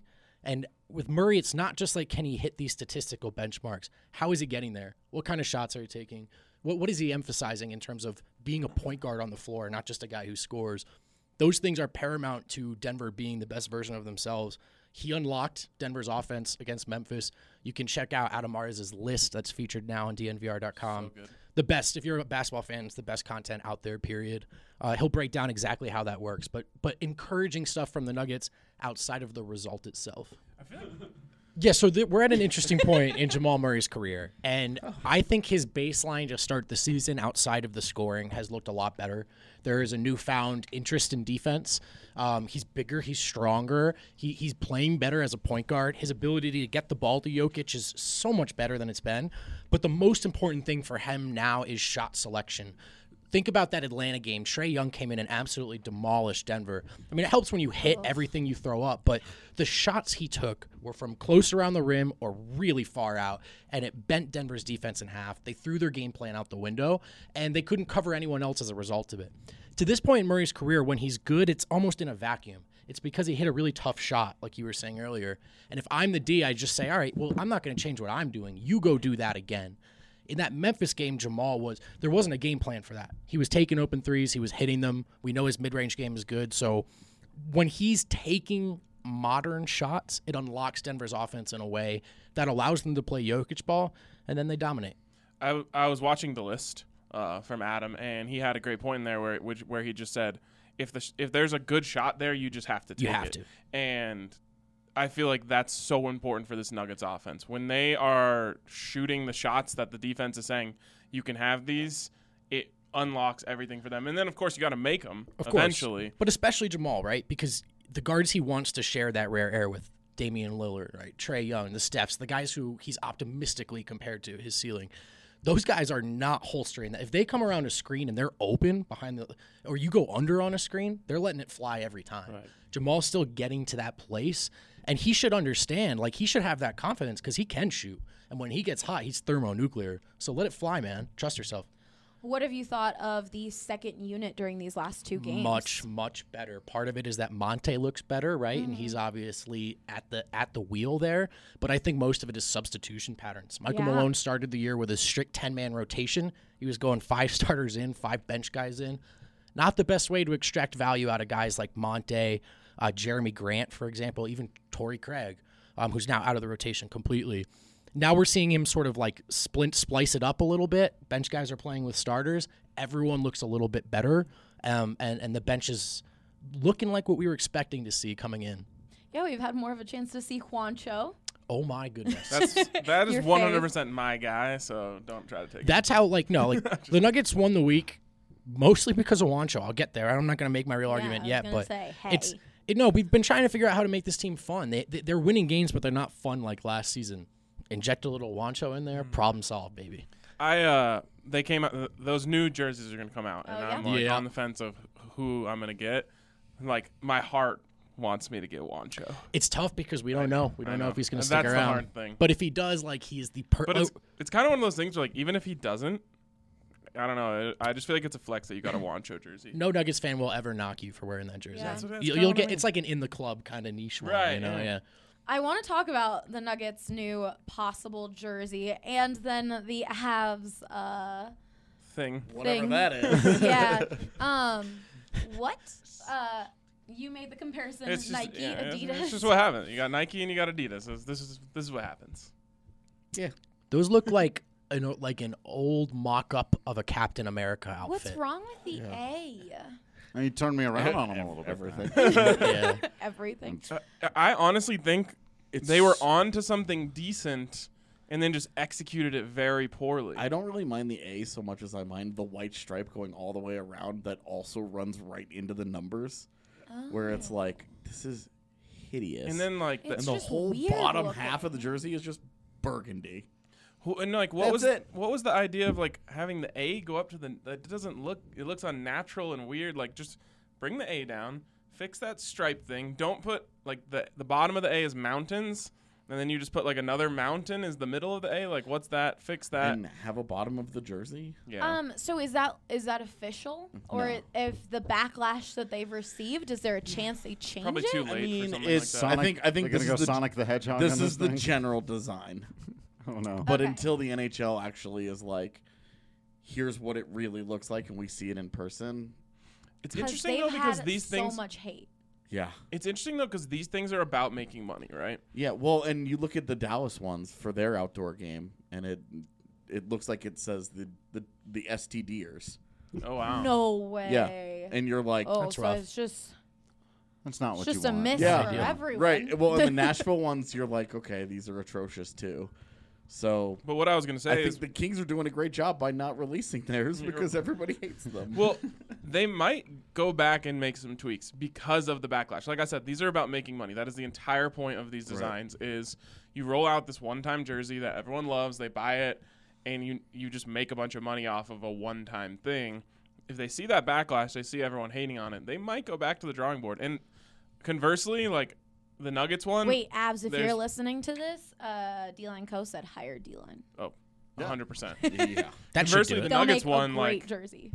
And with Murray, it's not just like, can he hit these statistical benchmarks? How is he getting there? What kind of shots are he taking? What is he emphasizing in terms of being a point guard on the floor, not just a guy who scores? Those things are paramount to Denver being the best version of themselves. He unlocked Denver's offense against Memphis. You can check out Adam Mares' list that's featured now on DNVR.com. So good. The best, if you're a basketball fan, it's the best content out there, period. He'll break down exactly how that works, but encouraging stuff from the Nuggets outside of the result itself. I feel like Yeah, so we're at an interesting point in Jamal Murray's career, and I think his baseline to start the season outside of the scoring has looked a lot better. There is a newfound interest in defense. He's bigger, he's stronger, he's playing better as a point guard. His ability to get the ball to Jokic is so much better than it's been, but the most important thing for him now is shot selection. Think about that Atlanta game. Trae Young came in and absolutely demolished Denver. I mean, it helps when you hit everything you throw up, but the shots he took were from close around the rim or really far out, and it bent Denver's defense in half. They threw their game plan out the window, and they couldn't cover anyone else as a result of it. To this point in Murray's career, when he's good, it's almost in a vacuum. It's because he hit a really tough shot, like you were saying earlier. And if I'm the D, I just say, all right, well, I'm not going to change what I'm doing. You go do that again. In that Memphis game, there wasn't a game plan for that. He was taking open threes. He was hitting them. We know his mid-range game is good. So when he's taking modern shots, it unlocks Denver's offense in a way that allows them to play Jokic ball, and then they dominate. I was watching the list from Adam, and he had a great point in there where he just said, if there's a good shot there, you just have to take it. You have to. And I feel like that's so important for this Nuggets offense. When they are shooting the shots that the defense is saying, you can have these, it unlocks everything for them. And then, of course, you got to make them eventually. But especially Jamal, right? Because the guards he wants to share that rare air with, Damian Lillard, right? Trae Young, the Stephs, the guys who he's optimistically compared to his ceiling. Those guys are not holstering that. If they come around a screen and they're open behind or you go under on a screen, they're letting it fly every time. Right. Jamal's still getting to that place, and he should understand, like, he should have that confidence because he can shoot. And when he gets hot, he's thermonuclear. So let it fly, man. Trust yourself. What have you thought of the second unit during these last two games? Much, much better. Part of it is that Monte looks better, right? And he's obviously at the wheel there. But I think most of it is substitution patterns. Michael Malone started the year with a strict 10-man rotation. He was going 5 starters in, 5 bench guys in. Not the best way to extract value out of guys like Monte, Jeremy Grant, for example, even Torrey Craig, who's now out of the rotation completely. Now we're seeing him sort of like splice it up a little bit. Bench guys are playing with starters. Everyone looks a little bit better, and the bench is looking like what we were expecting to see coming in. Yeah, we've had more of a chance to see Juancho. Oh my goodness. That is 100% my guy, so don't try to take That's how, the Nuggets won the week mostly because of Juancho. I'll get there. I'm not going to make my real argument yet, but we've been trying to figure out how to make this team fun. They're winning games, but they're not fun like last season. Inject a little Juancho in there, problem solved, baby. They came out. Those new jerseys are going to come out, and I'm on the fence of who I'm going to get. Like, my heart wants me to get Juancho. It's tough because we don't know. We don't know if he's going to stick around. That's the hard thing. But if he does, he's the But it's kind of one of those things where, even if he doesn't, I don't know. I just feel like it's a flex that you got a Juancho jersey. No Nuggets fan will ever knock you for wearing that jersey. Yeah. You'll get. It's like an in the club kind of niche one, right? Yeah. I want to talk about the Nuggets' new possible jersey and then the Avs whatever that is. Yeah. What? You made the comparison. It's just, Nike, Adidas. It's just what happens. You got Nike and you got Adidas. This is what happens. Yeah. Those look like an old mock-up of a Captain America outfit. What's wrong with the A? You turned me around on them a little bit. Everything. Everything. I honestly think they were on to something decent and then just executed it very poorly. I don't really mind the A so much as I mind the white stripe going all the way around that also runs right into the numbers, where it's like, this is hideous. And then the whole bottom half of the jersey is just burgundy. And what was the idea of having the A go up to it doesn't look, it looks unnatural and weird. Just bring the A down, fix that stripe thing. Don't put the bottom of the A is mountains, and then you just put like another mountain is the middle of the A. Like, what's that? Fix that. And have a bottom of the jersey. Yeah. So is that official, or No. if the backlash that they've received, is there a chance they change Probably it? too late for mean, something it's like that. I think they're this gonna is go Sonic the Hedgehog. This on is the thing? general design. Oh no. But Okay. until the NHL actually is like, here's what it really looks like, and we see it in person. It's 'Cause interesting they've though because had these things. so much hate. Yeah. It's interesting though because these things are about making money, right? Yeah. Well, and you look at the Dallas ones for their outdoor game, and it looks like it says the STDers. Oh wow. No way. Yeah. And you're like, Oh, That's so rough. it's just That's not what just you a want. miss Yeah. for Yeah. everyone. right. Well, in the Nashville ones, you're like, okay, these are atrocious too. So But what I was gonna I say think is, the Kings are doing a great job by not releasing theirs because everybody hates them. well, they might go back and make some tweaks because of the backlash. Like I said, these are about making money. That is the entire point of these designs. Is you roll out this one-time jersey that everyone loves, they buy it, and you just make a bunch of money off of a one-time thing. If they see that backlash, they see everyone hating on it, they might go back to the drawing board. And conversely, like the Nuggets one, Wait, Abs, if there's- you're listening to this, D-Line Co said hire D-Line. 100%. Yeah. That should Conversely, do the it. They'll Nuggets make one, a great like, jersey.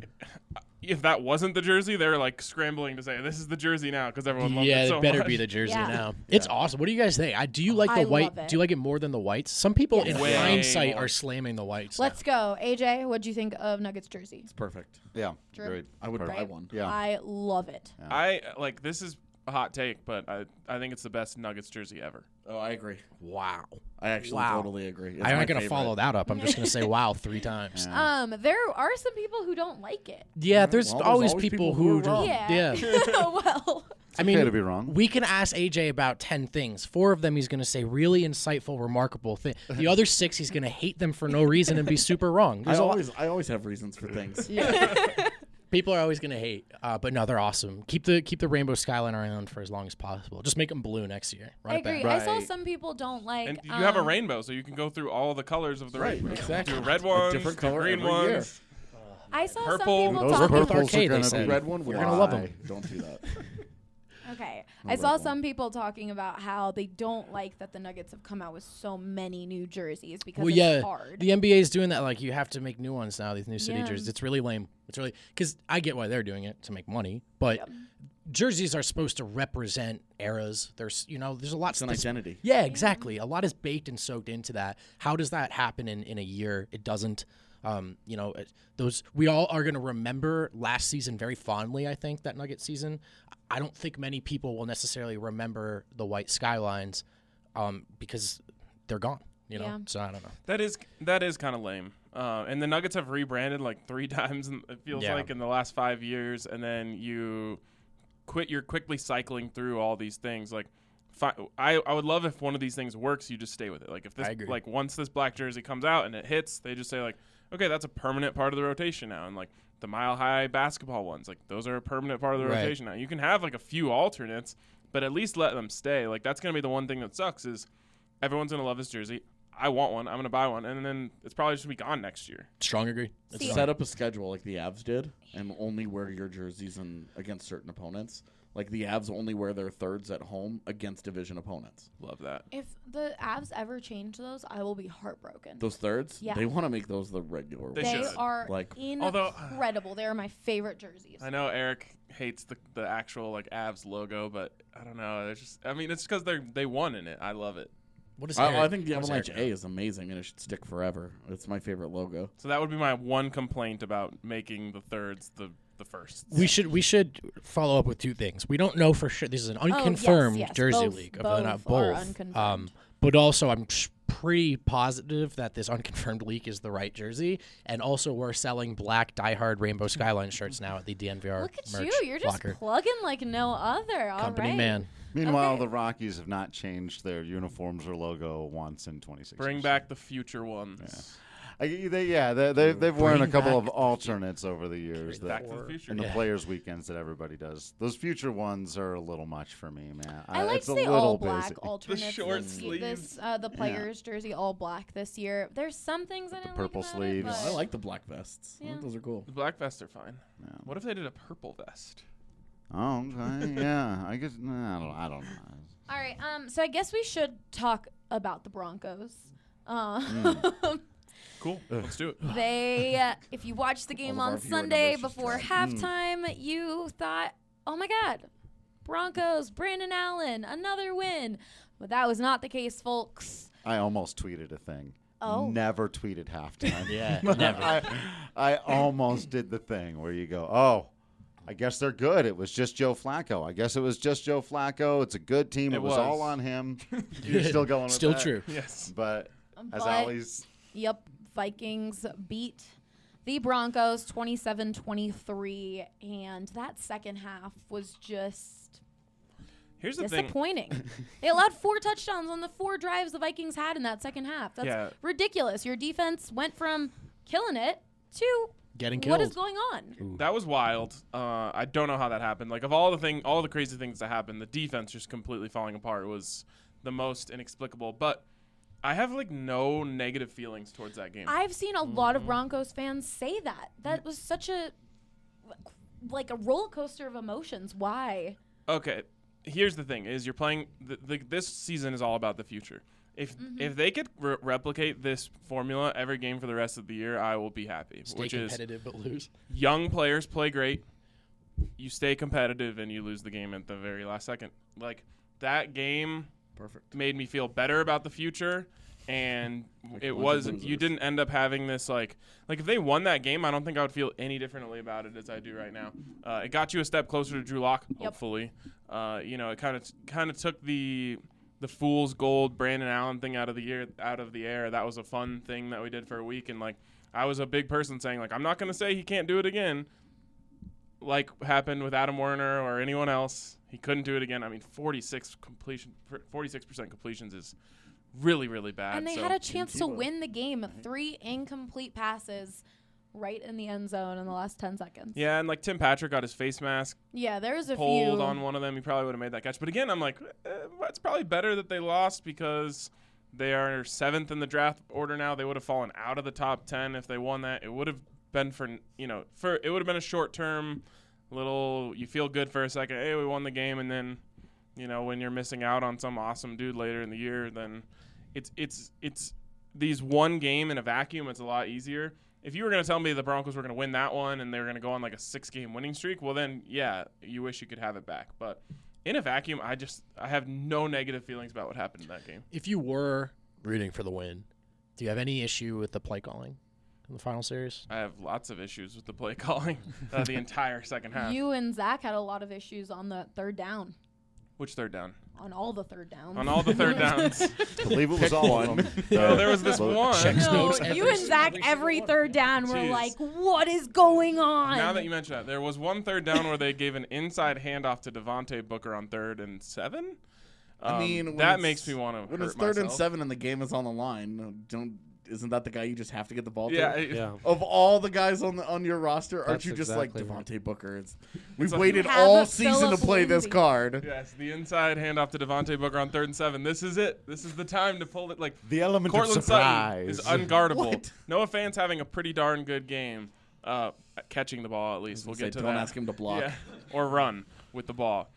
if that wasn't the jersey, they're like scrambling to say this is the jersey now because everyone loves Yeah, it so it better much. be the jersey Yeah. now. It's awesome. What do you guys think? Do you like I the white? love it. Do you like it more than the whites? Some people Yes. in Way hindsight more. are slamming the whites. Let's go. AJ, what'd you think of Nuggets jersey? It's perfect. Yeah. Drew? Great. I would buy Perfect. one. Yeah. I love it. I like this is a hot take, but I think it's the best Nuggets jersey ever. Oh, I agree. Wow. I actually Wow. totally agree. It's I'm my not going to favorite. follow that up. I'm just going to say wow 3 times. Yeah. There are some people who don't like it. Yeah, there's Well, there's always always people people who who are do- wrong. Yeah. Well, I Okay mean, to be wrong. we can ask AJ about 10 things. 4 of them he's going to say really insightful, remarkable thing. The other 6 he's going to hate them for no reason and be super wrong. I There's a lot- always have reasons for things. People are always going to hate, but no, they're awesome. Keep the rainbow skyline around for as long as possible. Just make them blue next year. Run I it back. agree. I saw Right. some people don't like. And you have a rainbow, so you can go through all the colors of the Right, rainbow. exactly. Do red ones, different do color green every year. ones. I saw Purple. some people Those talking. purples Arcade, are they gonna said. be Red one, You're gonna love 'em. why? Don't do that. Okay. No I saw red some one. people talking about how they don't like that the Nuggets have come out with so many new jerseys because Well, it's yeah, hard. the NBA is doing that. Like, you have to make new ones now. These new city Yeah. jerseys. It's really lame. It's really because I get why they're doing it to make money, but jerseys are supposed to represent eras. There's there's a lot. It's an that's- identity. Yeah, exactly. A lot is baked and soaked into that. How does that happen in a year? It doesn't. Those we all are going to remember last season very fondly. I think that Nugget season. I don't think many people will necessarily remember the white skylines because they're gone. Yeah. So I don't know. That is kind of lame. And the Nuggets have rebranded like 3 times. It feels Yeah. like in the last 5 years, and then you're quickly cycling through all these things. Like, I would love if one of these things works, you just stay with it. Like if this, I agree. like once this black jersey comes out and it hits, they just say like, okay, that's a permanent part of the rotation now. And like the Mile High basketball ones, like those are a permanent part of the Right. rotation now. You can have like a few alternates, but at least let them stay. Like that's gonna be the one thing that sucks is everyone's gonna love this jersey. I want one. I'm gonna buy one, and then it's probably just gonna be gone next year. Strong agree. It's See, strong. Set up a schedule like the Avs did, and only wear your jerseys against certain opponents. Like the Avs only wear their thirds at home against division opponents. Love that. If the Avs ever change those, I will be heartbroken. Those thirds, Yeah. they want to make those the regular They ones. They should. are Like- Although- incredible. They are my favorite jerseys. I know Eric hates the actual like Avs logo, but I don't know. It's just it's because they won in it. I love it. What is I Eric- think the what does Avalanche Eric A know? is amazing, and it should stick forever. It's my favorite logo. So that would be my one complaint about making the thirds the firsts. We should follow up with 2 things. We don't know for sure. This is an unconfirmed yes. jersey Both- leak. both are Both. unconfirmed. But also, I'm pretty positive that this unconfirmed leak is the right jersey. And also, we're selling black Die Hard Rainbow Skyline shirts now at the DNVR Look at merch you. You're just locker. plugging like no other. All Company right. man. Meanwhile, Okay. the Rockies have not changed their uniforms or logo once in 26 Bring years. back the future ones. They've worn a Bring couple back of alternates over the years Back to the future. in the Yeah. players' weekends that everybody does. Those future ones are a little much for me, man. I like it's to a say little all black basic. alternates. short this, sleeves. This the players' jersey all black this year. There's some things I the didn't purple like about sleeves. It, I but- like the black vests. I think Yeah. those are cool. The black vests are fine. Yeah. What if they did a purple vest? Oh, okay, yeah. I guess I don't know. All right. So I guess we should talk about the Broncos. Cool. Let's do it. They, if you watched the game All of on our viewer Sunday numbers just before dropped. halftime, you thought, oh my God, Broncos, Brandon Allen, another win. But that was not the case, folks. I almost tweeted a thing. Oh. Never tweeted halftime. Yeah, never. I almost did the thing where you go, oh, I guess they're good. It was just Joe Flacco. I guess it was just Joe Flacco. It's a good team. It was all on him. You're still going with Still that? true. Yes. But as But- always, Yep, Vikings beat the Broncos 27-23, and that second half was just Here's the thing. disappointing. They allowed 4 touchdowns on the 4 drives the Vikings had in that second half. That's Yeah. ridiculous. Your defense went from killing it to Getting what killed. is going on? That was wild. I don't know how that happened. Like, of all the crazy things that happened, the defense just completely falling apart was the most inexplicable. But I have like no negative feelings towards that game. I've seen a lot of Broncos fans say that. That was such a like a roller coaster of emotions. Why? Okay, here's the thing: is you're playing. This season is all about the future. If they could replicate this formula every game for the rest of the year, I will be happy. Stay which is competitive but lose. young players play great, you stay competitive, and you lose the game at the very last second. Like that game. Perfect. Made me feel better about the future, and it bunch of was you losers. didn't end up having this like if they won that game, I don't think I would feel any differently about it as I do right now. It got you a step closer to Drew Lock, hopefully. It kind of took the fool's gold Brandon Allen thing out of the air. That was a fun thing that we did for a week, and like I was a big person saying like I'm not gonna say he can't do it again, like happened with Adam Werner or anyone else. He couldn't do it again. I mean, 46% completions is really, really bad. And they so had a chance to win the game. 3 incomplete passes right in the end zone in the last 10 seconds. Yeah, and like Tim Patrick got his face mask Yeah, there's a pulled few. on one of them. He probably would have made that catch. But again, I'm like, it's probably better that they lost because they are 7th in the draft order now. They would have fallen out of the top 10 if they won that. It would have been it would have been a short term. You feel good for a second. Hey, we won the game, and then, when you're missing out on some awesome dude later in the year, then it's these one game in a vacuum. It's a lot easier. If you were going to tell me the Broncos were going to win that one and they were going to go on like a 6-game winning streak, well then, yeah, you wish you could have it back. But in a vacuum, I have no negative feelings about what happened in that game. If you were rooting for the win, do you have any issue with the play calling in the final series? I have lots of issues with the play calling the entire second half. You and Zach had a lot of issues on the third down. Which third down? On all the third downs. On all the third downs. I believe it was all of them. Well, there was this one. Checks No, notes you and Zach every third down were Jeez. like, what is going on? Now that you mention that, there was one third down where they gave an inside handoff to Devontae Booker on 3rd and 7. I mean, when that it's- makes me want to when hurt it's 3rd and myself. 7 and the game is on the line. Isn't that the guy you just have to get the ball Yeah, to? Yeah. Of all the guys on your roster, aren't That's you just exactly like right. Devontae Booker? We've like- waited Have all a season to Phillip play this Lindsay. card. Yes, the inside handoff to Devontae Booker on 3rd and 7. This is it. This is the time to pull it. Like The element of Cortland Sutton surprise. is unguardable. What? Noah Fant's having a pretty darn good game, catching the ball at least. We'll get to don't that. ask him to block. Yeah, or run with the ball.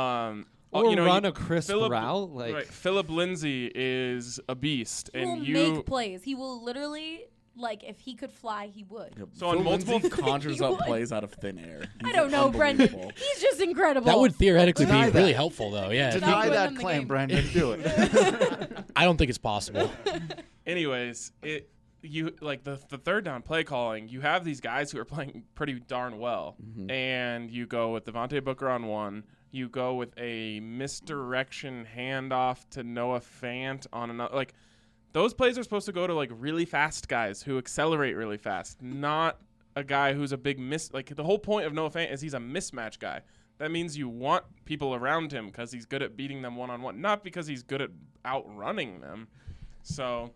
Or run a crisp route, like- right, Philip Lindsay is a beast, he and will you make plays. He will literally, like, if he could fly, he would. So on Phil multiple- Lindsay conjures He up would. plays out of thin air. I He's don't know, Brendan. unbelievable. He's just incredible. That would theoretically be Deny that. really helpful, though. Yeah. Not Deny win that them the claim, game. Brandon. Do it. I don't think it's possible. Anyways, the third down play calling, you have these guys who are playing pretty darn well, and you go with Devontae Booker on 1. You go with a misdirection handoff to Noah Fant on another. Like, those plays are supposed to go to like really fast guys who accelerate really fast, not a guy who's a big miss. Like, the whole point of Noah Fant is he's a mismatch guy. That means you want people around him because he's good at beating them one-on-one, not because he's good at outrunning them. So,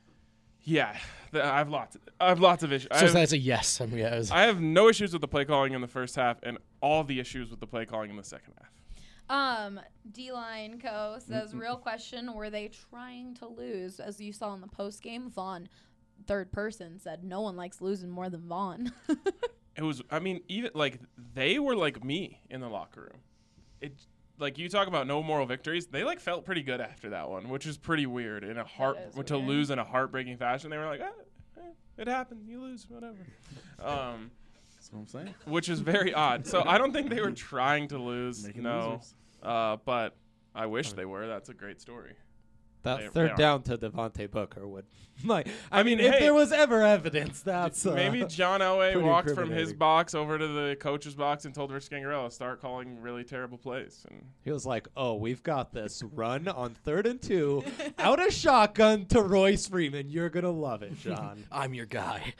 yeah, I have lots of issues. So that's a yes. I mean, yeah, I have no issues with the play calling in the first half and all the issues with the play calling in the second half. D-Line Co. says, real question, were they trying to lose? As you saw in the post game, Vaughn, third person, said no one likes losing more than Vaughn. It was, I mean, even like they were like me in the locker room. like you talk about no moral victories. They like felt pretty good after that one, which is pretty weird. To lose in a heartbreaking fashion, they were like, it happened. You lose, whatever. That's what I'm saying. Which is very odd. So I don't think they were trying to lose. Making no, losers. but I wish they were. That's a great story. That third down to Devontae Booker would. I mean, if hey, there was ever evidence, that's maybe John Elway pretty walked from his incriminating. box over to the coach's box and told Rich Scangarello, start calling really terrible plays. And he was like, "Oh, we've got this run on 3rd and 2, out of shotgun to Royce Freeman. You're gonna love it, John. I'm your guy."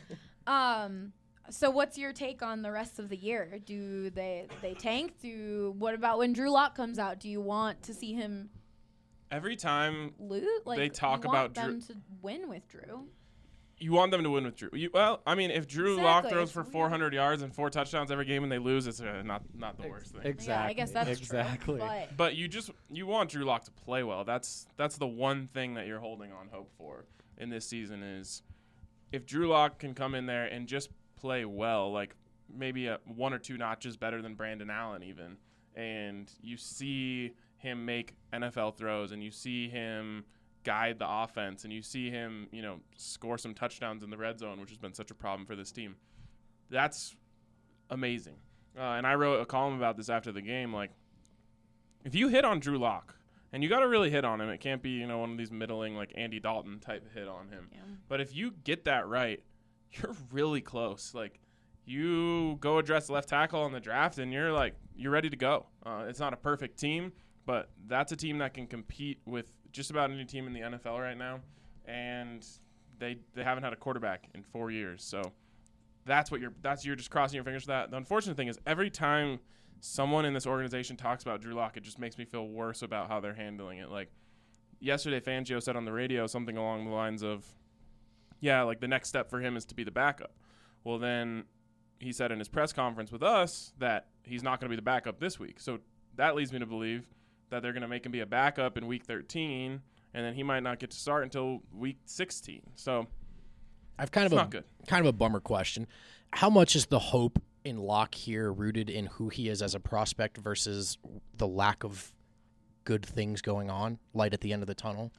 So what's your take on the rest of the year? Do they tank? What about when Drew Lock comes out? Do you want to see him every time lose? Like, they talk you about want them Drew, to win with Drew. you want them to win with Drew. If Drew Lock Exactly. throws for 400 yards and 4 touchdowns every game and they lose, it's not the worst thing. Exactly. Yeah, I guess that's exactly. true. But you want Drew Lock to play well. That's the one thing that you're holding on hope for in this season is if Drew Lock can come in there and just play well, like maybe 1 or 2 notches better than Brandon Allen even, and you see him make NFL throws and you see him guide the offense and you see him, score some touchdowns in the red zone, which has been such a problem for this team. That's amazing. And I wrote a column about this after the game. Like, if you hit on Drew Lock, and you got to really hit on him, it can't be, one of these middling, like Andy Dalton type hit on him. Yeah. But if you get that right, you're really close. Like, you go address left tackle on the draft, and you're ready to go. It's not a perfect team, but that's a team that can compete with just about any team in the NFL right now. And they haven't had a quarterback in 4 years, so you're just crossing your fingers for that. The unfortunate thing is every time someone in this organization talks about Drew Lock, it just makes me feel worse about how they're handling it. Like yesterday, Fangio said on the radio something along the lines of, yeah, like the next step for him is to be the backup. Well, then he said in his press conference with us that he's not going to be the backup this week. So that leads me to believe that they're going to make him be a backup in week 13, and then he might not get to start until week 16. So I've kind of a bummer question. How much is the hope in Locke here rooted in who he is as a prospect versus the lack of good things going on, light at the end of the tunnel?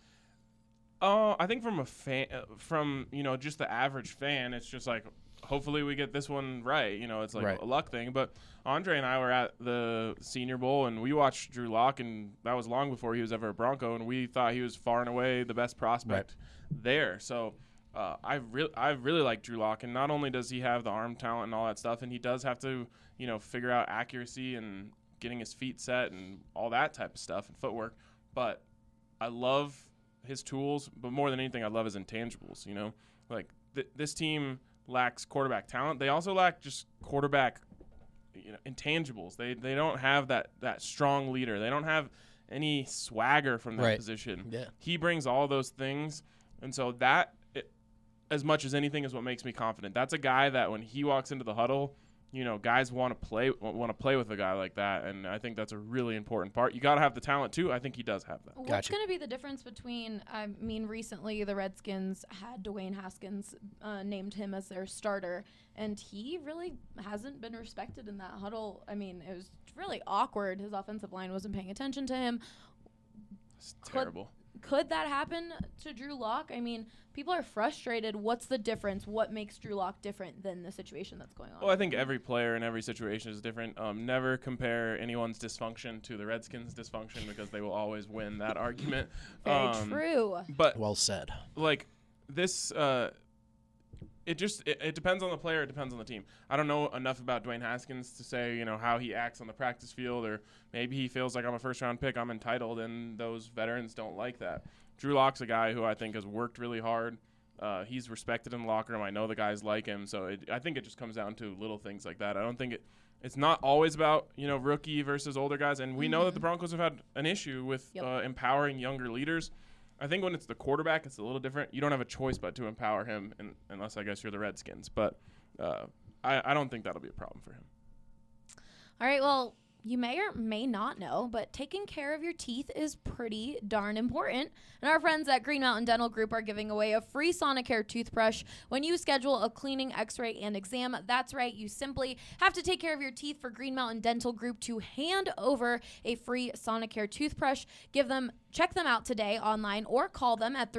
I think from a fan, just the average fan, it's just like, hopefully we get this one right. It's like a luck thing. But Andre and I were at the Senior Bowl, and we watched Drew Lock, and that was long before he was ever a Bronco, and we thought he was far and away the best prospect there. So I really like Drew Lock, and not only does he have the arm talent and all that stuff, and he does have to, figure out accuracy and getting his feet set and all that type of stuff and footwork, but I love his tools, but more than anything, I love his intangibles. This team lacks quarterback talent. They also lack just quarterback, intangibles. They don't have that strong leader. They don't have any swagger from that position. Yeah. He brings all those things, and so that, as much as anything, is what makes me confident. That's a guy that when he walks into the huddle, guys want to play with a guy like that, and I think that's a really important part. You got to have the talent too. I think he does have that. What's going to be the difference between? Recently the Redskins had Dwayne Haskins named him as their starter, and he really hasn't been respected in that huddle. I mean, it was really awkward. His offensive line wasn't paying attention to him. It's terrible. Could that happen to Drew Lock? I mean, people are frustrated. What's the difference? What makes Drew Lock different than the situation that's going on? Well, I think every player in every situation is different. Never compare anyone's dysfunction to the Redskins' dysfunction because they will always win that argument. Very true. But well said. Like this, it depends on the player. It depends on the team. I don't know enough about Dwayne Haskins to say how he acts on the practice field, or maybe he feels like I'm a first-round pick, I'm entitled, and those veterans don't like that. Drew Lock's a guy who I think has worked really hard. He's respected in the locker room. I know the guys like him, so I think it just comes down to little things like that. I don't think it's not always about rookie versus older guys, and we know that the Broncos have had an issue with empowering younger leaders. I think when it's the quarterback, it's a little different. You don't have a choice but to empower him, unless I guess you're the Redskins. But I don't think that'll be a problem for him. All right, well, you may or may not know, but taking care of your teeth is pretty darn important. And our friends at Green Mountain Dental Group are giving away a free Sonicare toothbrush when you schedule a cleaning, x-ray, and exam. That's right. You simply have to take care of your teeth for Green Mountain Dental Group to hand over a free Sonicare toothbrush. Check them out today online or call them at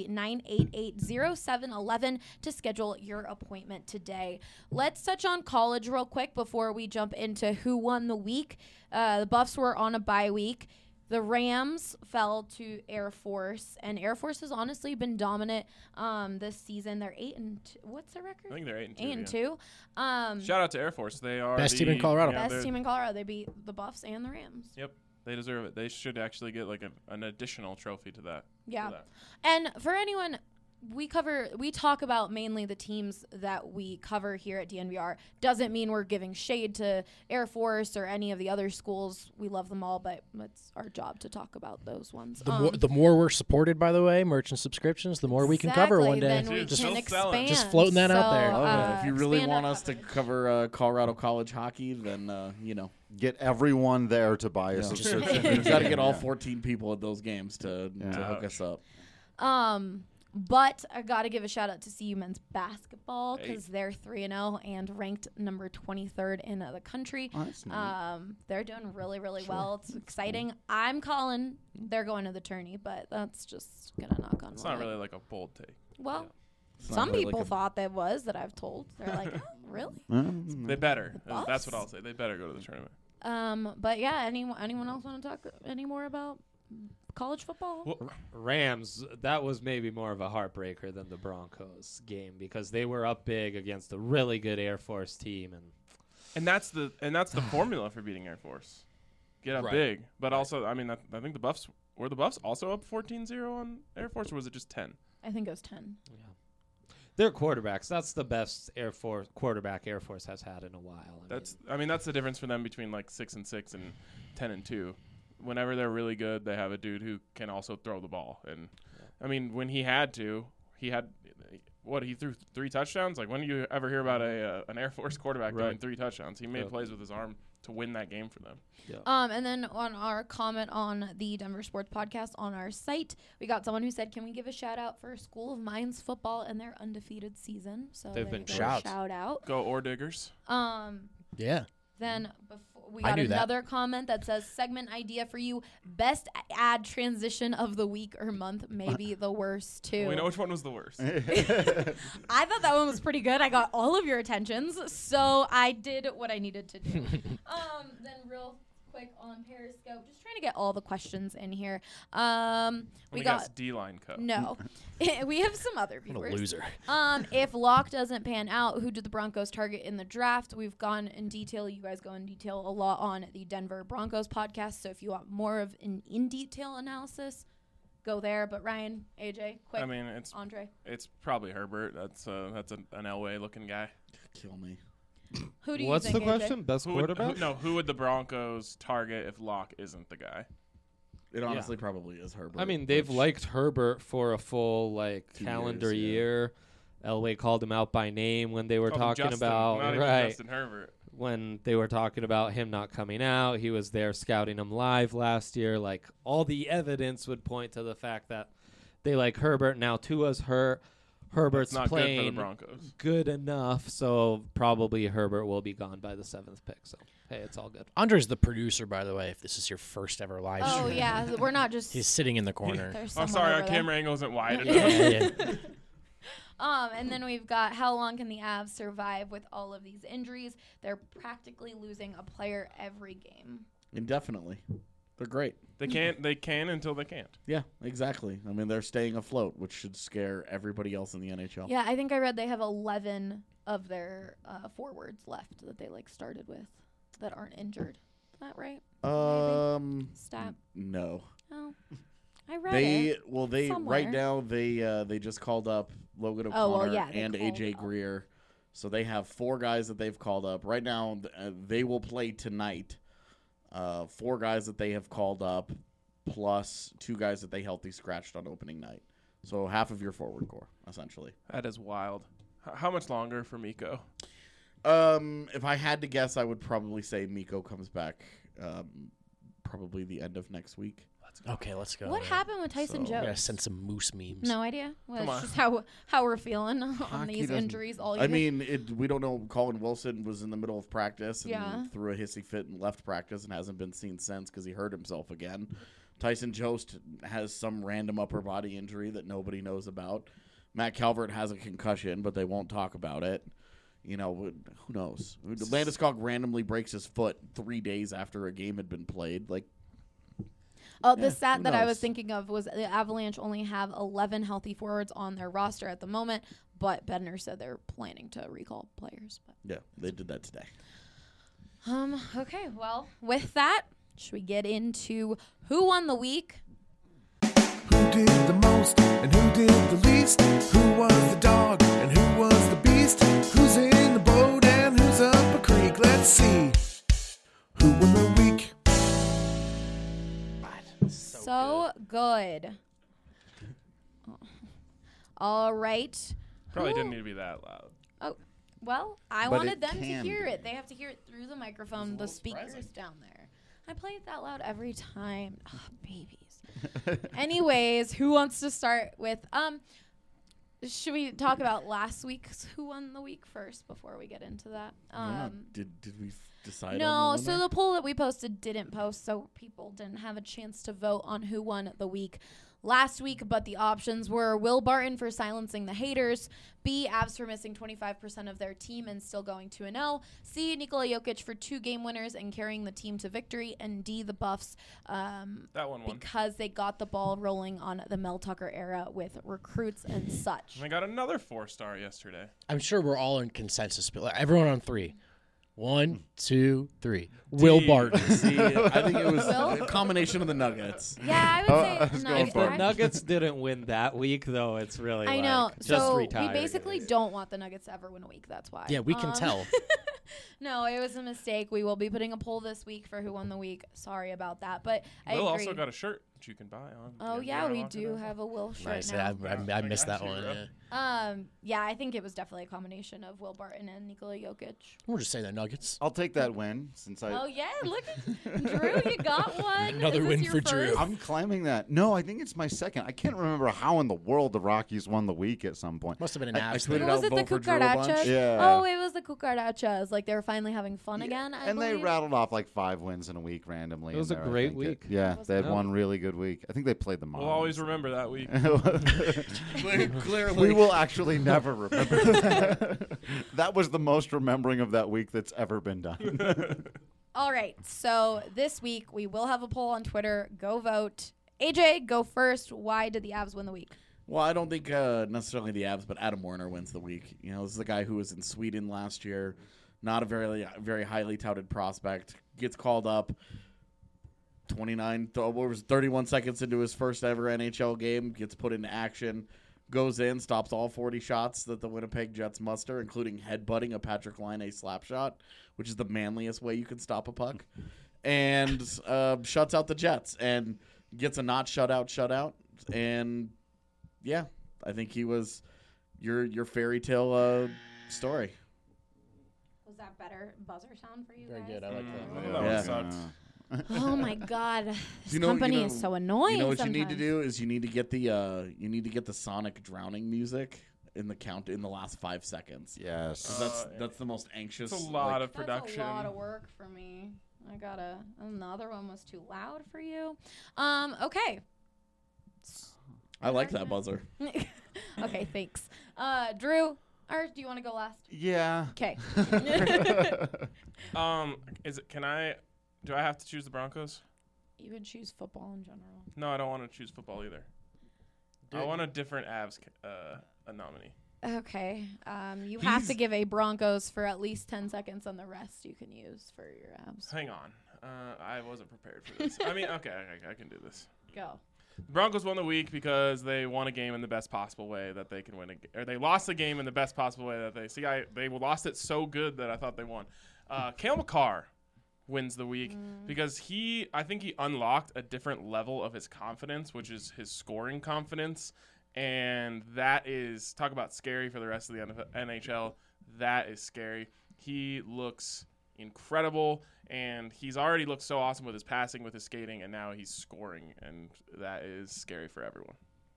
303-988-0711 to schedule your appointment today. Let's touch on college real quick before we jump into who won the week. The Buffs were on a bye week. The Rams fell to Air Force, and Air Force has honestly been dominant this season. They're 8-2. What's their record? I think they're 8-2. 8-2. Shout out to Air Force. They are best team in Colorado. Best team in Colorado. They beat the Buffs and the Rams. Yep. They deserve it. They should actually get like an additional trophy to that. Yeah. To that. And for anyone, we talk about mainly the teams that we cover here at DNVR. Doesn't mean we're giving shade to Air Force or any of the other schools. We love them all, but it's our job to talk about those ones. The more we're supported, by the way, merchant subscriptions, the more we can cover one day. Then we just can expand. Just floating that out there. If you really want us to cover Colorado college hockey, then get everyone there to buy a subscription. We've got to get all 14 people at those games to hook us up. But I got to give a shout out to CU men's basketball because they're 3-0 and ranked number 23rd in the country. Oh, that's neat. They're doing really, really well. It's exciting. I'm calling they're going to the tourney, but that's just going to knock on wood. It's not really like a bold take. Well, It's some not really people like a- thought that was that I've told. They're like, oh, really? They better. Buffs? That's what I'll say. They better go to the tournament. But yeah, anyone else want to talk any more about college football? Well, Rams, that was maybe more of a heartbreaker than the Broncos game because they were up big against a really good Air Force team, and that's the formula for beating Air Force. Get up big, but also, I mean, I think the Buffs also up 14-0 on Air Force, or was it just 10? I think it was 10. yeah, they're quarterbacks. That's the best Air Force quarterback Air Force has had in a while. That's the difference for them between like 6-6 and 10-2. Whenever they're really good, they have a dude who can also throw the ball. And I mean, when he threw 3 touchdowns. Like, when do you ever hear about an Air Force quarterback doing 3 touchdowns? He made plays with his arm to win that game for them. Yeah. And then on our comment on the Denver Sports Podcast on our site, we got someone who said, "Can we give a shout out for School of Mines football and their undefeated season?" So They've been shout out. Go Ore Diggers. Yeah. Then we got another comment that says, segment idea for you, best ad transition of the week or month, maybe the worst too. We know which one was the worst. I thought that one was pretty good. I got all of your attentions, so I did what I needed to do. Then real quick on Periscope, just trying to get all the questions in here. We got D-line Co. No. We have some other viewers. What a loser. If Locke doesn't pan out, who did the Broncos target in the draft? We've gone in detail. You guys go in detail a lot on the Denver Broncos podcast. So if you want more of an in-detail analysis, go there. But Ryan, AJ, quick. I mean, it's Andre. It's probably Herbert. That's an Elway looking guy. Kill me. Who do you What's think, the AJ? question? Best quarterback? Who would the Broncos target if Locke isn't the guy? It honestly probably is Herbert. I mean, they've which- liked Herbert for a full 2 calendar years, yeah. year. Elway called him out by name when they were Called him talking Justin, about not even Justin Herbert. when they were talking about him not coming out. He was there scouting him live last year. Like, all the evidence would point to the fact that they like Herbert. Now Tua's hurt. Herbert's That's not playing good for the Broncos. good enough, so probably Herbert will be gone by the 7th pick. So, hey, it's all good. Andre's the producer, by the way, if this is your first ever live Oh, stream. yeah. We're not just. He's sitting in the corner. There's Oh, someone sorry, our over there. camera angle isn't wide Yeah, enough. yeah. And then we've got, how long can the Avs survive with all of these injuries? They're practically losing a player every game. Indefinitely. They're great. They can until they can't. Yeah, exactly. I mean, they're staying afloat, which should scare everybody else in the NHL. Yeah, I think I read they have 11 of their forwards left that they started with that aren't injured. Is that right? Stat. No. Oh, I read it. They somewhere. right now they just called up Logan O'Connor Oh, well, yeah, they and called AJ up. Greer, so they have 4 guys that they've called up right now. They will play tonight. 4 guys that they have called up, plus 2 guys that they healthy scratched on opening night. So half of your forward core, essentially. That is wild. How much longer for Miko? If I had to guess, I would probably say Miko comes back probably the end of next week. Okay, let's go. What happened with Tyson So- I gotta Jones? send some moose memes. No idea. Well, Come it's on. just how we're feeling on Hockey these doesn't- injuries all year. I mean, we don't know. Colin Wilson was in the middle of practice and Yeah. threw a hissy fit and left practice and hasn't been seen since because he hurt himself again. Tyson Jost has some random upper body injury that nobody knows about. Matt Calvert has a concussion, but they won't talk about it. You know, who knows? Landeskog randomly breaks his foot 3 days after a game had been played. Like, Oh, the Yeah, stat who that I was knows? thinking of was the Avalanche only have 11 healthy forwards on their roster at the moment, but Bednar said they're planning to recall players. But yeah, they did that today. okay, well, with that, should we get into who won the week? Who did the most and who did the least? Who was the dog and who was the beast? Who's in the boat and who's up a creek? Let's see. Who won the week? So good. All right. Probably Who- didn't need to be that loud. Oh, well, I But wanted it them to can hear be. it. They have to hear it through the microphone, the speakers down there. I play it that loud every time. Oh, babies. Anyways, who wants to start with should we talk about last week's who won the week first before we get into that? Did we decide? No, on so the poll that we posted didn't post, so people didn't have a chance to vote on who won the week last week, but the options were Will Barton for silencing the haters, B, Avs for missing 25% of their team and still going 2-0, C, Nikola Jokic for 2 game winners and carrying the team to victory, and D, the Buffs That one won. because they got the ball rolling on the Mel Tucker era with recruits and such. And I got another 4-star yesterday. I'm sure we're all in consensus, but like, everyone on 3. 1, 2, 3. Will Barton. See, I think it was Will? a combination of the Nuggets. Yeah, I would say If the Nuggets. Nuggets didn't win that week, though, it's really I like, know. just So retire. we basically don't want the Nuggets to ever win a week. That's why. Yeah, we can tell. No, it was a mistake. We will be putting a poll this week for who won the week. Sorry about that, but I Will agree. also got a shirt that you can buy on. Oh yeah, we do have a Will shirt Nice. now. I missed that one. Yeah. Yeah, I think it was definitely a combination of Will Barton and Nikola Jokic. We'll just say the Nuggets. I'll take that win since I. Oh yeah, look at Drew, you got one. Another Is this win your for Drew. first? I'm claiming that. No, I think it's my second. I can't remember how in the world the Rockies won the week at some point. Must have been an I Avs tweeted thing. Was out it the vote for Drew a bunch. cucarachas? Yeah. Oh, it was the cucarachas. Like they were finally having fun again. I And they believe. rattled off like 5 wins in a week randomly. It was in a there, I great think. week. Yeah, Was they had it? one really good week. I think they played the Moms. We'll always remember that week. Clearly, We will actually never remember that. That was the most remembering of that week that's ever been done. All right. So this week we will have a poll on Twitter. Go vote. AJ, go first. Why did the Avs win the week? Well, I don't think necessarily the Avs, but Adam Werner wins the week. You know, this is the guy who was in Sweden last year, not a very highly touted prospect. Gets called up 31 seconds into his first ever NHL game, gets put into action, goes in, stops all 40 shots that the Winnipeg Jets muster, including headbutting a Patrick Laine slap shot, which is the manliest way you can stop a puck, and shuts out the Jets and gets a not shutout. And yeah, I think he was your fairy tale story. Was that better buzzer sound for you Very guys? good. I like that. That one Yeah. sucked. Oh my God, this You know- company you know- is so annoying. You know what sometimes. you need to do is you need to get the Sonic drowning music in the last 5 seconds. Yes. 'Cause that's the most anxious. It's a lot like- of production. That's a lot of work for me. And the other one was too loud for you. Okay. I like that buzzer. Okay, thanks. Drew, or do you want to go last? Yeah. Okay. Do I have to choose the Broncos? You can choose football in general. No, I don't want to choose football either. I want a different Avs a nominee. Okay. You have to give a Broncos for at least 10 seconds, and the rest you can use for your abs. Hang on. I wasn't prepared for this. I mean, okay, I can do this. Go. The Broncos won the week because they won a game in the best possible way that they can win, or they lost the game in the best possible way that they lost it so good that I thought they won. Cale Makar wins the week because I think he unlocked a different level of his confidence, which is his scoring confidence, and that is, talk about scary for the rest of the NHL. That is scary. He looks incredible, and he's already looked so awesome with his passing, with his skating, and now he's scoring, and that is scary for everyone.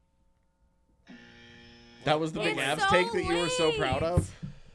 That was the big It's Avs so take that you were so proud of?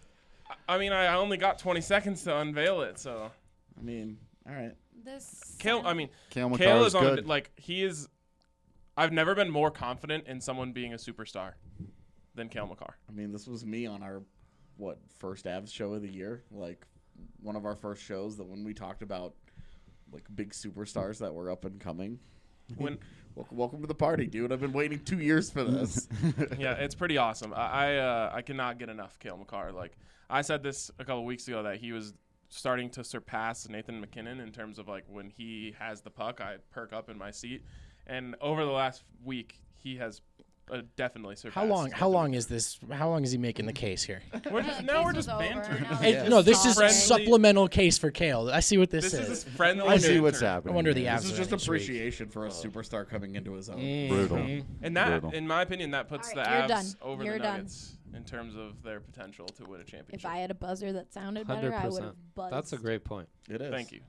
I mean, I only got 20 seconds to unveil it, so. I mean, all right. Cale Makar is on good. he is. I've never been more confident in someone being a superstar than Cale Makar. I mean, this was me on our, first Avs show of the year? Like, one of our first shows that when we talked about, like, big superstars that were up and coming. Welcome to the party, dude. I've been waiting 2 years for this. Yeah, it's pretty awesome. I cannot get enough Cale Makar. Like, I said this a couple weeks ago that he was starting to surpass Nathan McKinnon in terms of, like, when he has the puck, I perk up in my seat. And over the last week, he has definitely surpassed. How long is this? How long is he making the case here? We're just bantering. No, this is a supplemental case for Cale. I see what this is. Is friendly. I see what's happening. I wonder the This Avs is are just next appreciation for a superstar coming into his own. Brutal. And that, Brutal. in my opinion, that puts All the right, you're Avs done. over You're the done. Nuggets in terms of their potential to win a championship. If I had a buzzer that sounded better, I would have buzzed. That's a great point. It is. Thank you.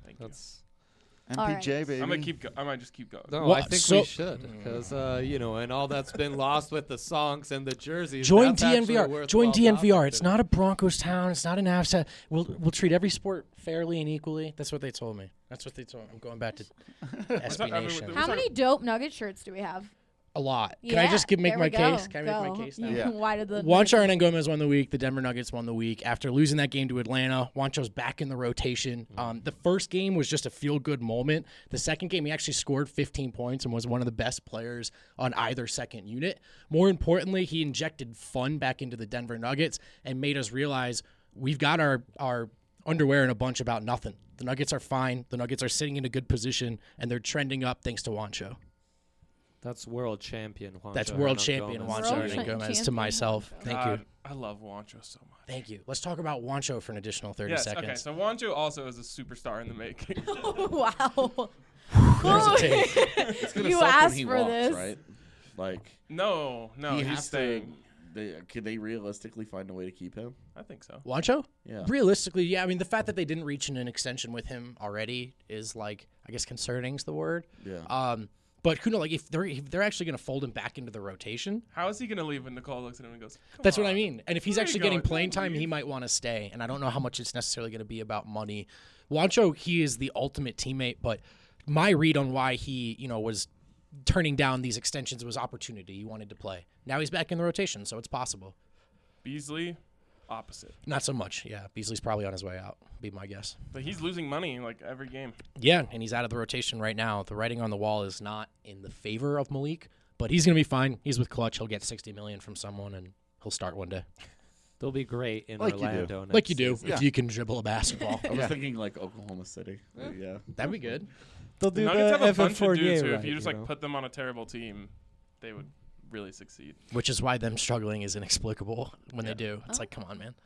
MPJ, All right. baby. I'm gonna keep. I might just keep going. No, Well, I think we should because and all that's been lost with the songs and the jerseys. Join that's actually a DNVR. Join worthwhile DNVR. topic It's today. not a Broncos town. It's not an Avs town. We'll treat every sport fairly and equally. That's what they told me. That's what they told me. I'm going back to SB Nation. How many dope Nugget shirts do we have? A lot. Can I just make my case? Can I make my case now? Yeah. Why did the Juancho Hernan Gomez won the week. The Denver Nuggets won the week. After losing that game to Atlanta, Juancho's back in the rotation. The first game was just a feel-good moment. The second game, he actually scored 15 points and was one of the best players on either second unit. More importantly, he injected fun back into the Denver Nuggets and made us realize we've got our underwear in a bunch about nothing. The Nuggets are fine. The Nuggets are sitting in a good position, and they're trending up thanks to Juancho. That's world champion Juancho. That's world Hernan champion Gomez. Juancho Hernan Gomez to myself. Thank you. I love Juancho so much. Thank you. Let's talk about Juancho for an additional 30 Yes. seconds. Okay. So Juancho also is a superstar in the making. Wow. There's a take. It's gonna You suck asked when he for walks, this. right? Like no, he he's has staying. Could they realistically find a way to keep him? I think so. Juancho? Yeah. Realistically, yeah. I mean, the fact that they didn't reach an extension with him already is, like, I guess concerning is the word. Yeah. But who knows? Like, if they're actually going to fold him back into the rotation, How is he going to leave when Nicole looks at him and goes, "Come that's on." what I mean. And if he's Where are actually you getting going? playing Don't time, he leave. might want to stay. And I don't know how much it's necessarily going to be about money. Juancho, he is the ultimate teammate. But my read on why he, was turning down these extensions was opportunity. He wanted to play. Now he's back in the rotation, so it's possible. Beasley, opposite. Not so much. Yeah, Beasley's probably on his way out. Be my guess. But he's losing money like every game. Yeah, and he's out of the rotation right now. The writing on the wall is not in the favor of Malik, but he's going to be fine. He's with Clutch. He'll get $60 million from someone, and he'll start one day. They'll be great in Like you do. Orlando. Like you do, season. if you can dribble a basketball. I was thinking like Oklahoma City. Yeah. That'd be good. They'll The do Nuggets the have a Evan bunch of Fournier dudes who, right, if you just know? put them on a terrible team, they would really succeed. Which is why them struggling is inexplicable when they do. It's like, come on, man.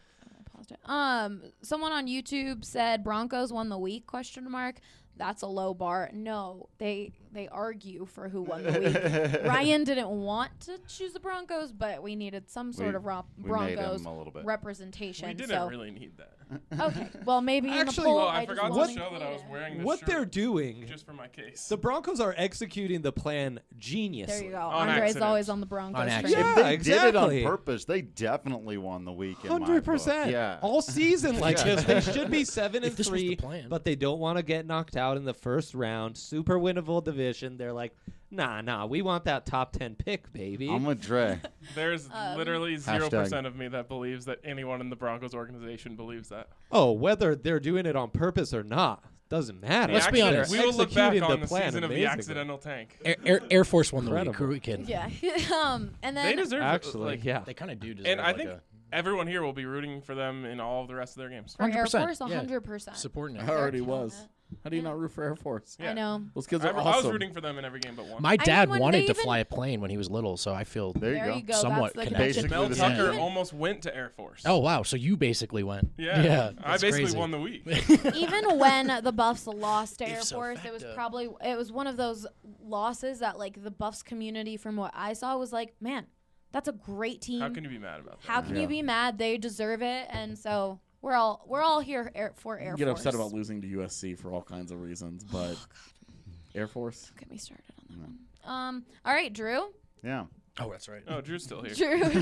Someone on YouTube said Broncos won the week ? That's a low bar. No, they argue for who won the week. Ryan didn't want to choose the Broncos, but we needed some sort of we made Broncos him a little bit. representation. We didn't so. really need that. Okay, well maybe in the Actually, poll. Well, I just forgot to wanted show that I was it. wearing this What shirt they're doing, just for my case. the Broncos are executing the plan geniusly. There you go. On Andre's accident. always on the Broncos. On train. accident. Yeah, If they did it on exactly. purpose, they definitely won the week. in my book. 100%. Yeah. All season like Yeah. this. They should be 7 If this was the 3, plan. but they don't want to get knocked out in the first round. Super winnable division. They're like, nah, we want that top 10 pick, baby. I'm with Dre. There's literally 0% Hashtag. of me that believes that anyone in the Broncos organization believes that. Oh, whether they're doing it on purpose or not, doesn't matter. Let's be They're honest. We will look back executing on the plan season of the amazingly. accidental tank. Air Force won the week. Incredible. Who are we kidding? Yeah. And then They deserve Actually, like, yeah. They kind of do deserve And I like think everyone here will be rooting for them in all of the rest of their games. for Air 100%, Force, yeah. 100%. supporting I it. already killing was. it. How do you not root for Air Force? Yeah. I know. Those kids I are was awesome. rooting for them in every game but one. My I dad mean, when wanted they to even- fly a plane when he was little, so I feel. There you There go. you go. Somewhat That's the connected. connection. Basically Mel the Tucker same. almost went to Air Force. Oh wow! So you basically went. Yeah. I that's basically crazy. won the week. Even when the Buffs lost to Air Ipso Force, it was facto. it was one of those losses that like the Buffs community, from what I saw, was like, man, that's a great team. How can you be mad about that? How can you be mad? They deserve it, and so We're all here for Air Force. Get upset about losing to USC for all kinds of reasons, but Air Force. Don't get me started on that one. All right, Drew. Yeah. Oh, that's right. Oh, Drew's still here. Drew.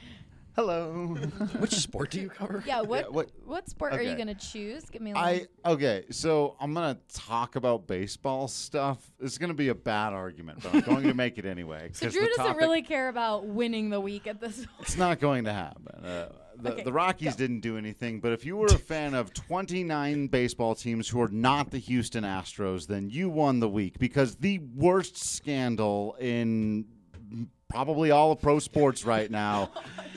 Hello. Which sport do you cover? Yeah. What sport are you okay. gonna choose? Give me a Okay, so I'm gonna talk about baseball stuff. It's gonna be a bad argument, but I'm going to make it anyway. So 'cause Drew the doesn't topic- really care about winning the week at this point. It's not going to happen. Okay, The Rockies didn't do anything, but if you were a fan of 29 baseball teams who are not the Houston Astros, then you won the week because the worst scandal in probably all of pro sports right now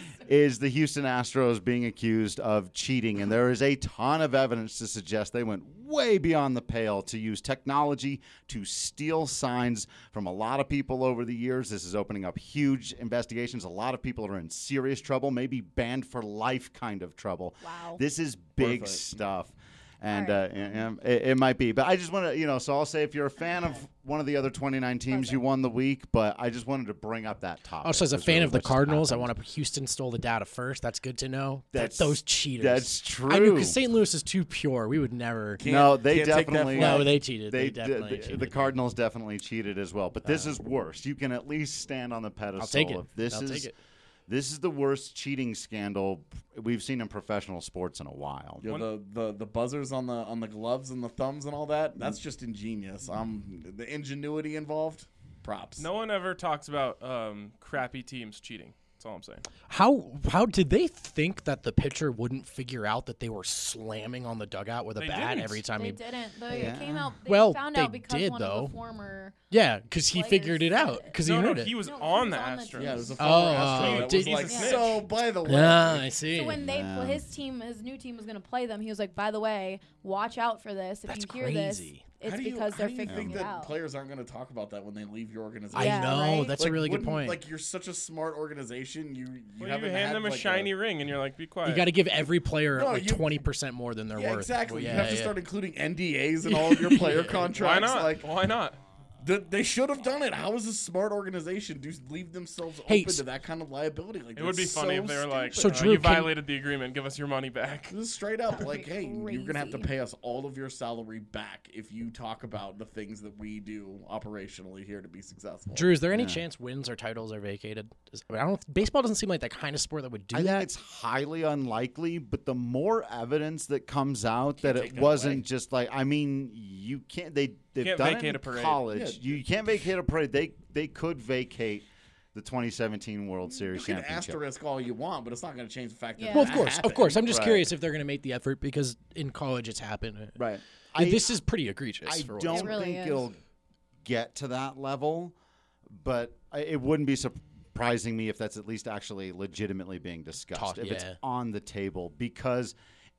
is the Houston Astros being accused of cheating. And there is a ton of evidence to suggest they went way beyond the pale to use technology to steal signs from a lot of people over the years. This is opening up huge investigations. A lot of people are in serious trouble, maybe banned for life kind of trouble. Wow. This is big stuff. And All it might be. But I just want to, so I'll say if you're a fan of one of the other 29 teams, you won the week. But I just wanted to bring up that topic. Also, as a That's fan really of the what just Cardinals, I happened. want to Houston stole the data first. That's good to know. That's- those cheaters. that's true. I knew because St. Louis is too pure. We would never. No, they can't take that definitely. No, they cheated. They did- definitely cheated. The Cardinals definitely cheated as well. But this is worse. You can at least stand on the pedestal. I'll take it. Of this I'll is take it. this is the worst cheating scandal we've seen in professional sports in a while. Yeah, the buzzers on the gloves and the thumbs and all that. That's just ingenious. The ingenuity involved. Props. No one ever talks about crappy teams cheating. That's all I'm saying. How did they think that the pitcher wouldn't figure out that they were slamming on the dugout with a They bat didn't. every time They he? didn't. It came out. They Well, found they out because did, one though. of the former. Yeah, because he players figured it said out. Because he No, heard it. he was No, on he the was on the Astros. team. Yeah, it was a Oh, former Astro that did was he- like, Yeah. so by the way. Ah, I see. So when they his new team was going to play them, he was like, "By the way, watch out for this. If That's you hear this, crazy. it's How do you- because they're how do you figuring think it that out." players aren't going to talk about that when they leave your organization? I Yeah, know. right? That's a really good wouldn't- point. Like, you're such a smart organization. You Well, haven't you hand had, them a like, shiny ring, and you're like, be quiet. You got to give every player No, like you- 20% more than they're Yeah, worth. exactly. Well, you have to start including NDAs in all of your player contracts. Why not? Like, Why not? they should have done it. How is a smart organization to leave themselves Hey, open to that kind of liability? Like, It would be that's funny so if they were like, So, stupid. Drew, you can- violated the agreement. Give us your money back. This is straight up like, hey, you're gonna have to Crazy. pay us all of your salary back if you talk about the things that we do operationally here to be successful. Drew, is there any chance wins or titles are vacated? I don't. Baseball doesn't seem like that kind of sport that would do I that. think it's highly unlikely, but the more evidence that comes out that take it that wasn't away. just like, I mean, you can't. They've Can't done it vacate in a parade. college. Yeah. You can't vacate a parade. They could vacate the 2017 World Series You can championship. asterisk all you want, but it's not going to change the fact that Yeah. Well, that of course, happened. of course. I'm just Right. curious if they're going to make the effort because in college it's happened. Right. This is pretty egregious. I for what don't it's It really think is. it'll get to that level, but it wouldn't be surprising me if that's at least actually legitimately being discussed. Talk- if it's yeah. on the table, because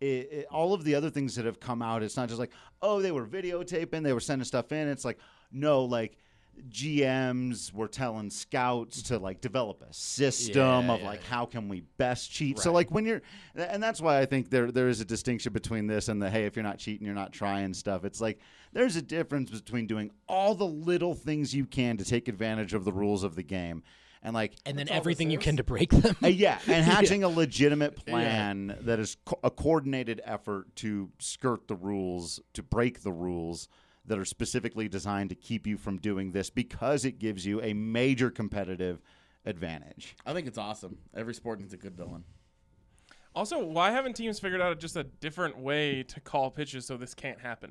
all of the other things that have come out, it's not just like, oh, they were videotaping, they were sending stuff in. It's like, no, like GMs were telling scouts to like develop a system of like how can we best cheat. So like when you're, and that's why I think there is a distinction between this and the hey, if you're not cheating, you're not trying stuff. It's like there's a difference between doing all the little things you can to take advantage of the rules of the game. And like, and then everything you can to break them. yeah, and hatching a legitimate plan that is a coordinated effort to skirt the rules, to break the rules that are specifically designed to keep you from doing this because it gives you a major competitive advantage. I think it's awesome. Every sport needs a good villain. Also, why haven't teams figured out just a different way to call pitches so this can't happen?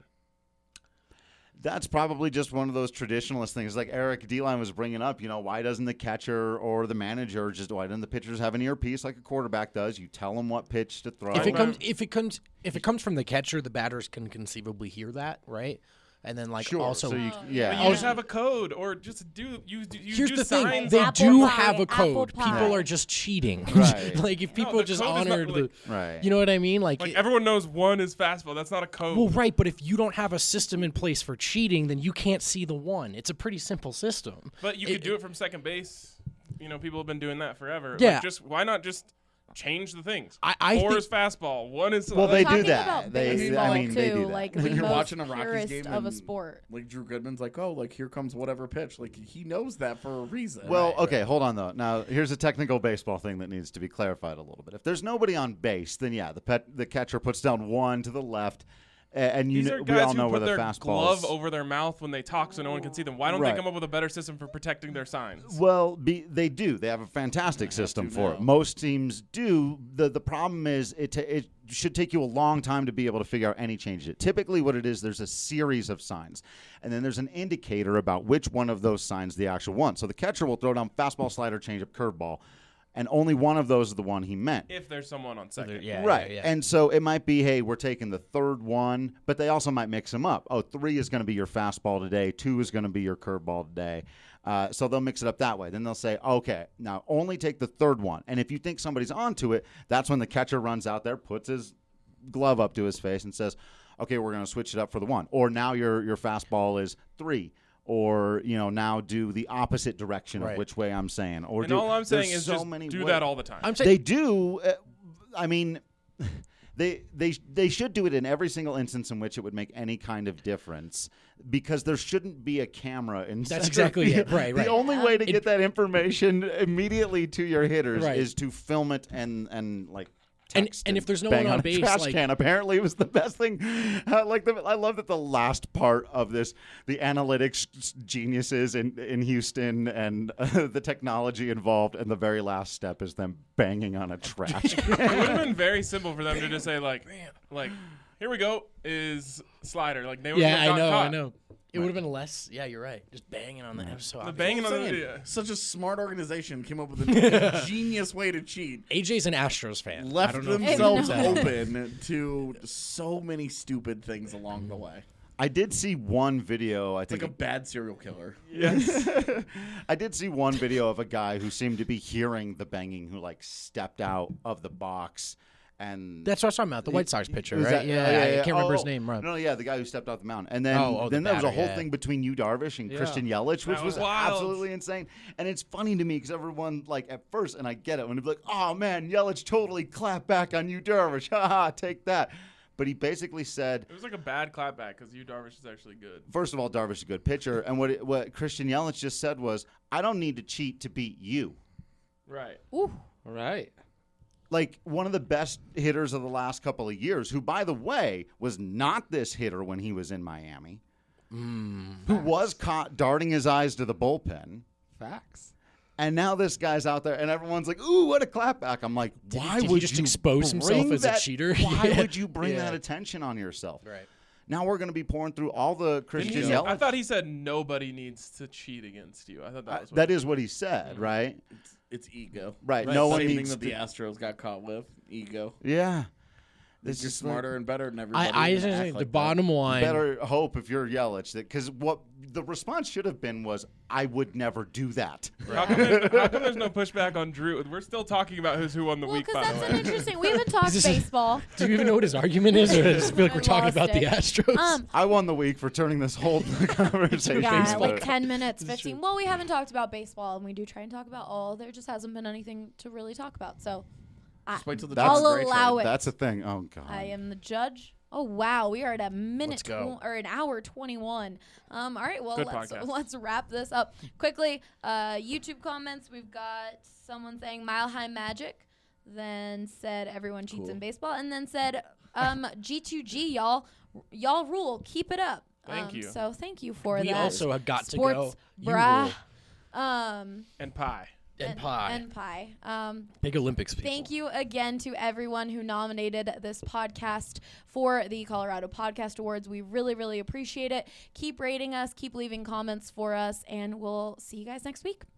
That's probably just one of those traditionalist things. Like Eric D-Line was bringing up, why doesn't the catcher or the manager why doesn't the pitchers have an earpiece like a quarterback does? You tell them what pitch to throw. If it comes from the catcher, the batters can conceivably hear that, right? And then like Sure. also So you- But yeah. you just have a code, or just do you Here's do the thing: signs they on- Apple do pie, have a apple code. pie. People are just cheating. Right. Like if people the just code is not, honored like- the, Right. you know what I mean? Like, Like everyone knows one is fastball. That's not a code. well, right. But if you don't have a system in place for cheating, then you can't see the one. It's a pretty simple system. But you could do it from second base. People have been doing that forever. Yeah. Like, why not just change the things. I Four think- is fastball. One is Well, they do Talking that. about They, baseball, I mean, they too, do that. like the You're most watching a Rockies purest game of a and, sport. Like Drew Goodman's like, oh, like here comes whatever pitch. Like he knows that for a reason. Well, okay, hold on though. Now, here's a technical baseball thing that needs to be clarified a little bit. If there's nobody on base, then yeah, the catcher puts down one to the left, and These are we guys all who know put where the their fastball glove is. over their mouth when they talk so no one can see them. Why don't Right. they come up with a better system for protecting their signs? Well, they do. They have a fantastic system to for now. it. Most teams do. The problem is it should take you a long time to be able to figure out any changes. Typically what it is, there's a series of signs, and then there's an indicator about which one of those signs the actual one. So the catcher will throw down fastball, slider, changeup, curveball, and only one of those is the one he meant. If there's someone on second. Right. And so it might be, hey, we're taking the third one, but they also might mix them up. Oh, 3 is going to be your fastball today. 2 is going to be your curveball today. So they'll mix it up that way. Then they'll say, okay, now only take the third one. And if you think somebody's onto it, that's when the catcher runs out there, puts his glove up to his face and says, okay, we're going to switch it up for the 1. Or now your fastball is 3. Or, now do the opposite direction of which way I'm saying. Or And all I'm saying there's is so just many do ways. that all the time. They do. I mean, they should do it in every single instance in which it would make any kind of difference, because there shouldn't be a camera in. That's exactly it. Right. The only way to get that information immediately to your hitters is to film it and like. And if there's no bang one on a base, trash like- can. Apparently, it was the best thing. I love that the last part of this, the analytics geniuses in Houston and the technology involved, and the very last step is them banging on a trash It would can. have been very simple for them to just say like, here we go is slider. Like they would have got caught. I know. It would have been less. Yeah, you're right. Just banging on the. It was so obvious. banging on Saying, the such a smart organization came up with a genius way to cheat. AJ's an Astros fan. Left I don't know if you themselves know that. open to so many stupid things along the way. I did see one video. It's like a bad serial killer. Yes. I did see one video of a guy who seemed to be hearing the banging, who like stepped out of the box. And That's what I was talking about. The White Sox pitcher, Was right? that- I can't remember his name. Right. No, yeah, the guy who stepped off the mound. And then, the then there was a batter, whole yeah. thing between Yu Darvish and Christian Yelich, which That was was wild. absolutely insane. And it's funny to me because everyone, like, at first, and I get it, when they'd be like, oh, man, Yelich totally clapped back on Yu Darvish. Ha ha, take that. But he basically said, It was like a bad clapback because Darvish is actually good. first of all, Darvish is a good pitcher. And what Christian Yelich just said was, I don't need to cheat to beat you. Right. Ooh. Right. Like one of the best hitters of the last couple of years, who, by the way, was not this hitter when he was in Miami, who was caught darting his eyes to the bullpen. Facts. And now this guy's out there, and everyone's like, ooh, what a clapback. I'm like, why did he would just you expose himself bring as a that- cheater? Why Yeah. would you bring Yeah. that attention on yourself? Right. Now we're going to be pouring through all the Christian Yelich. I thought he said nobody needs to cheat against you. I thought that was That is what he said, right? It's ego. Right. No one Same needs thing that the to- Astros got caught with. Ego. Yeah. This This is is like- smarter and better than everybody. I even just act think the like that. bottom line. Better hope if you're Yelich, because what the response should have been was, I would never do that. How come there's no pushback on Drew? We're still talking about who won the Well, week, because by the that's way. an interesting. We haven't talked Is this- baseball. Do you even know what his argument is, or does it just feel like I we're talking lost about the it. Astros? I won the week for turning this whole conversation. Yeah, into- like 10 minutes, 15. Well, we haven't talked about baseball, and we do try and talk about all. There just hasn't been anything to really talk about. So Just wait till the That's- I'll Great allow trade. it. That's a thing. Oh, God. I am the judge. Oh wow, we are at a minute Let's go. or an hour 21. All right, well Good let's podcast. wrap this up quickly. YouTube comments. We've got someone saying Mile High Magic, then said everyone cheats Cool. in baseball, and then said G2G y'all rule, keep it up. Thank you. So thank you for We that. also have got to Sports go. You brah. rule. And pie. And pie. And pie. Big Olympics people. Thank you again to everyone who nominated this podcast for the Colorado Podcast Awards. We really, really appreciate it. Keep rating us, keep leaving comments for us, and we'll see you guys next week.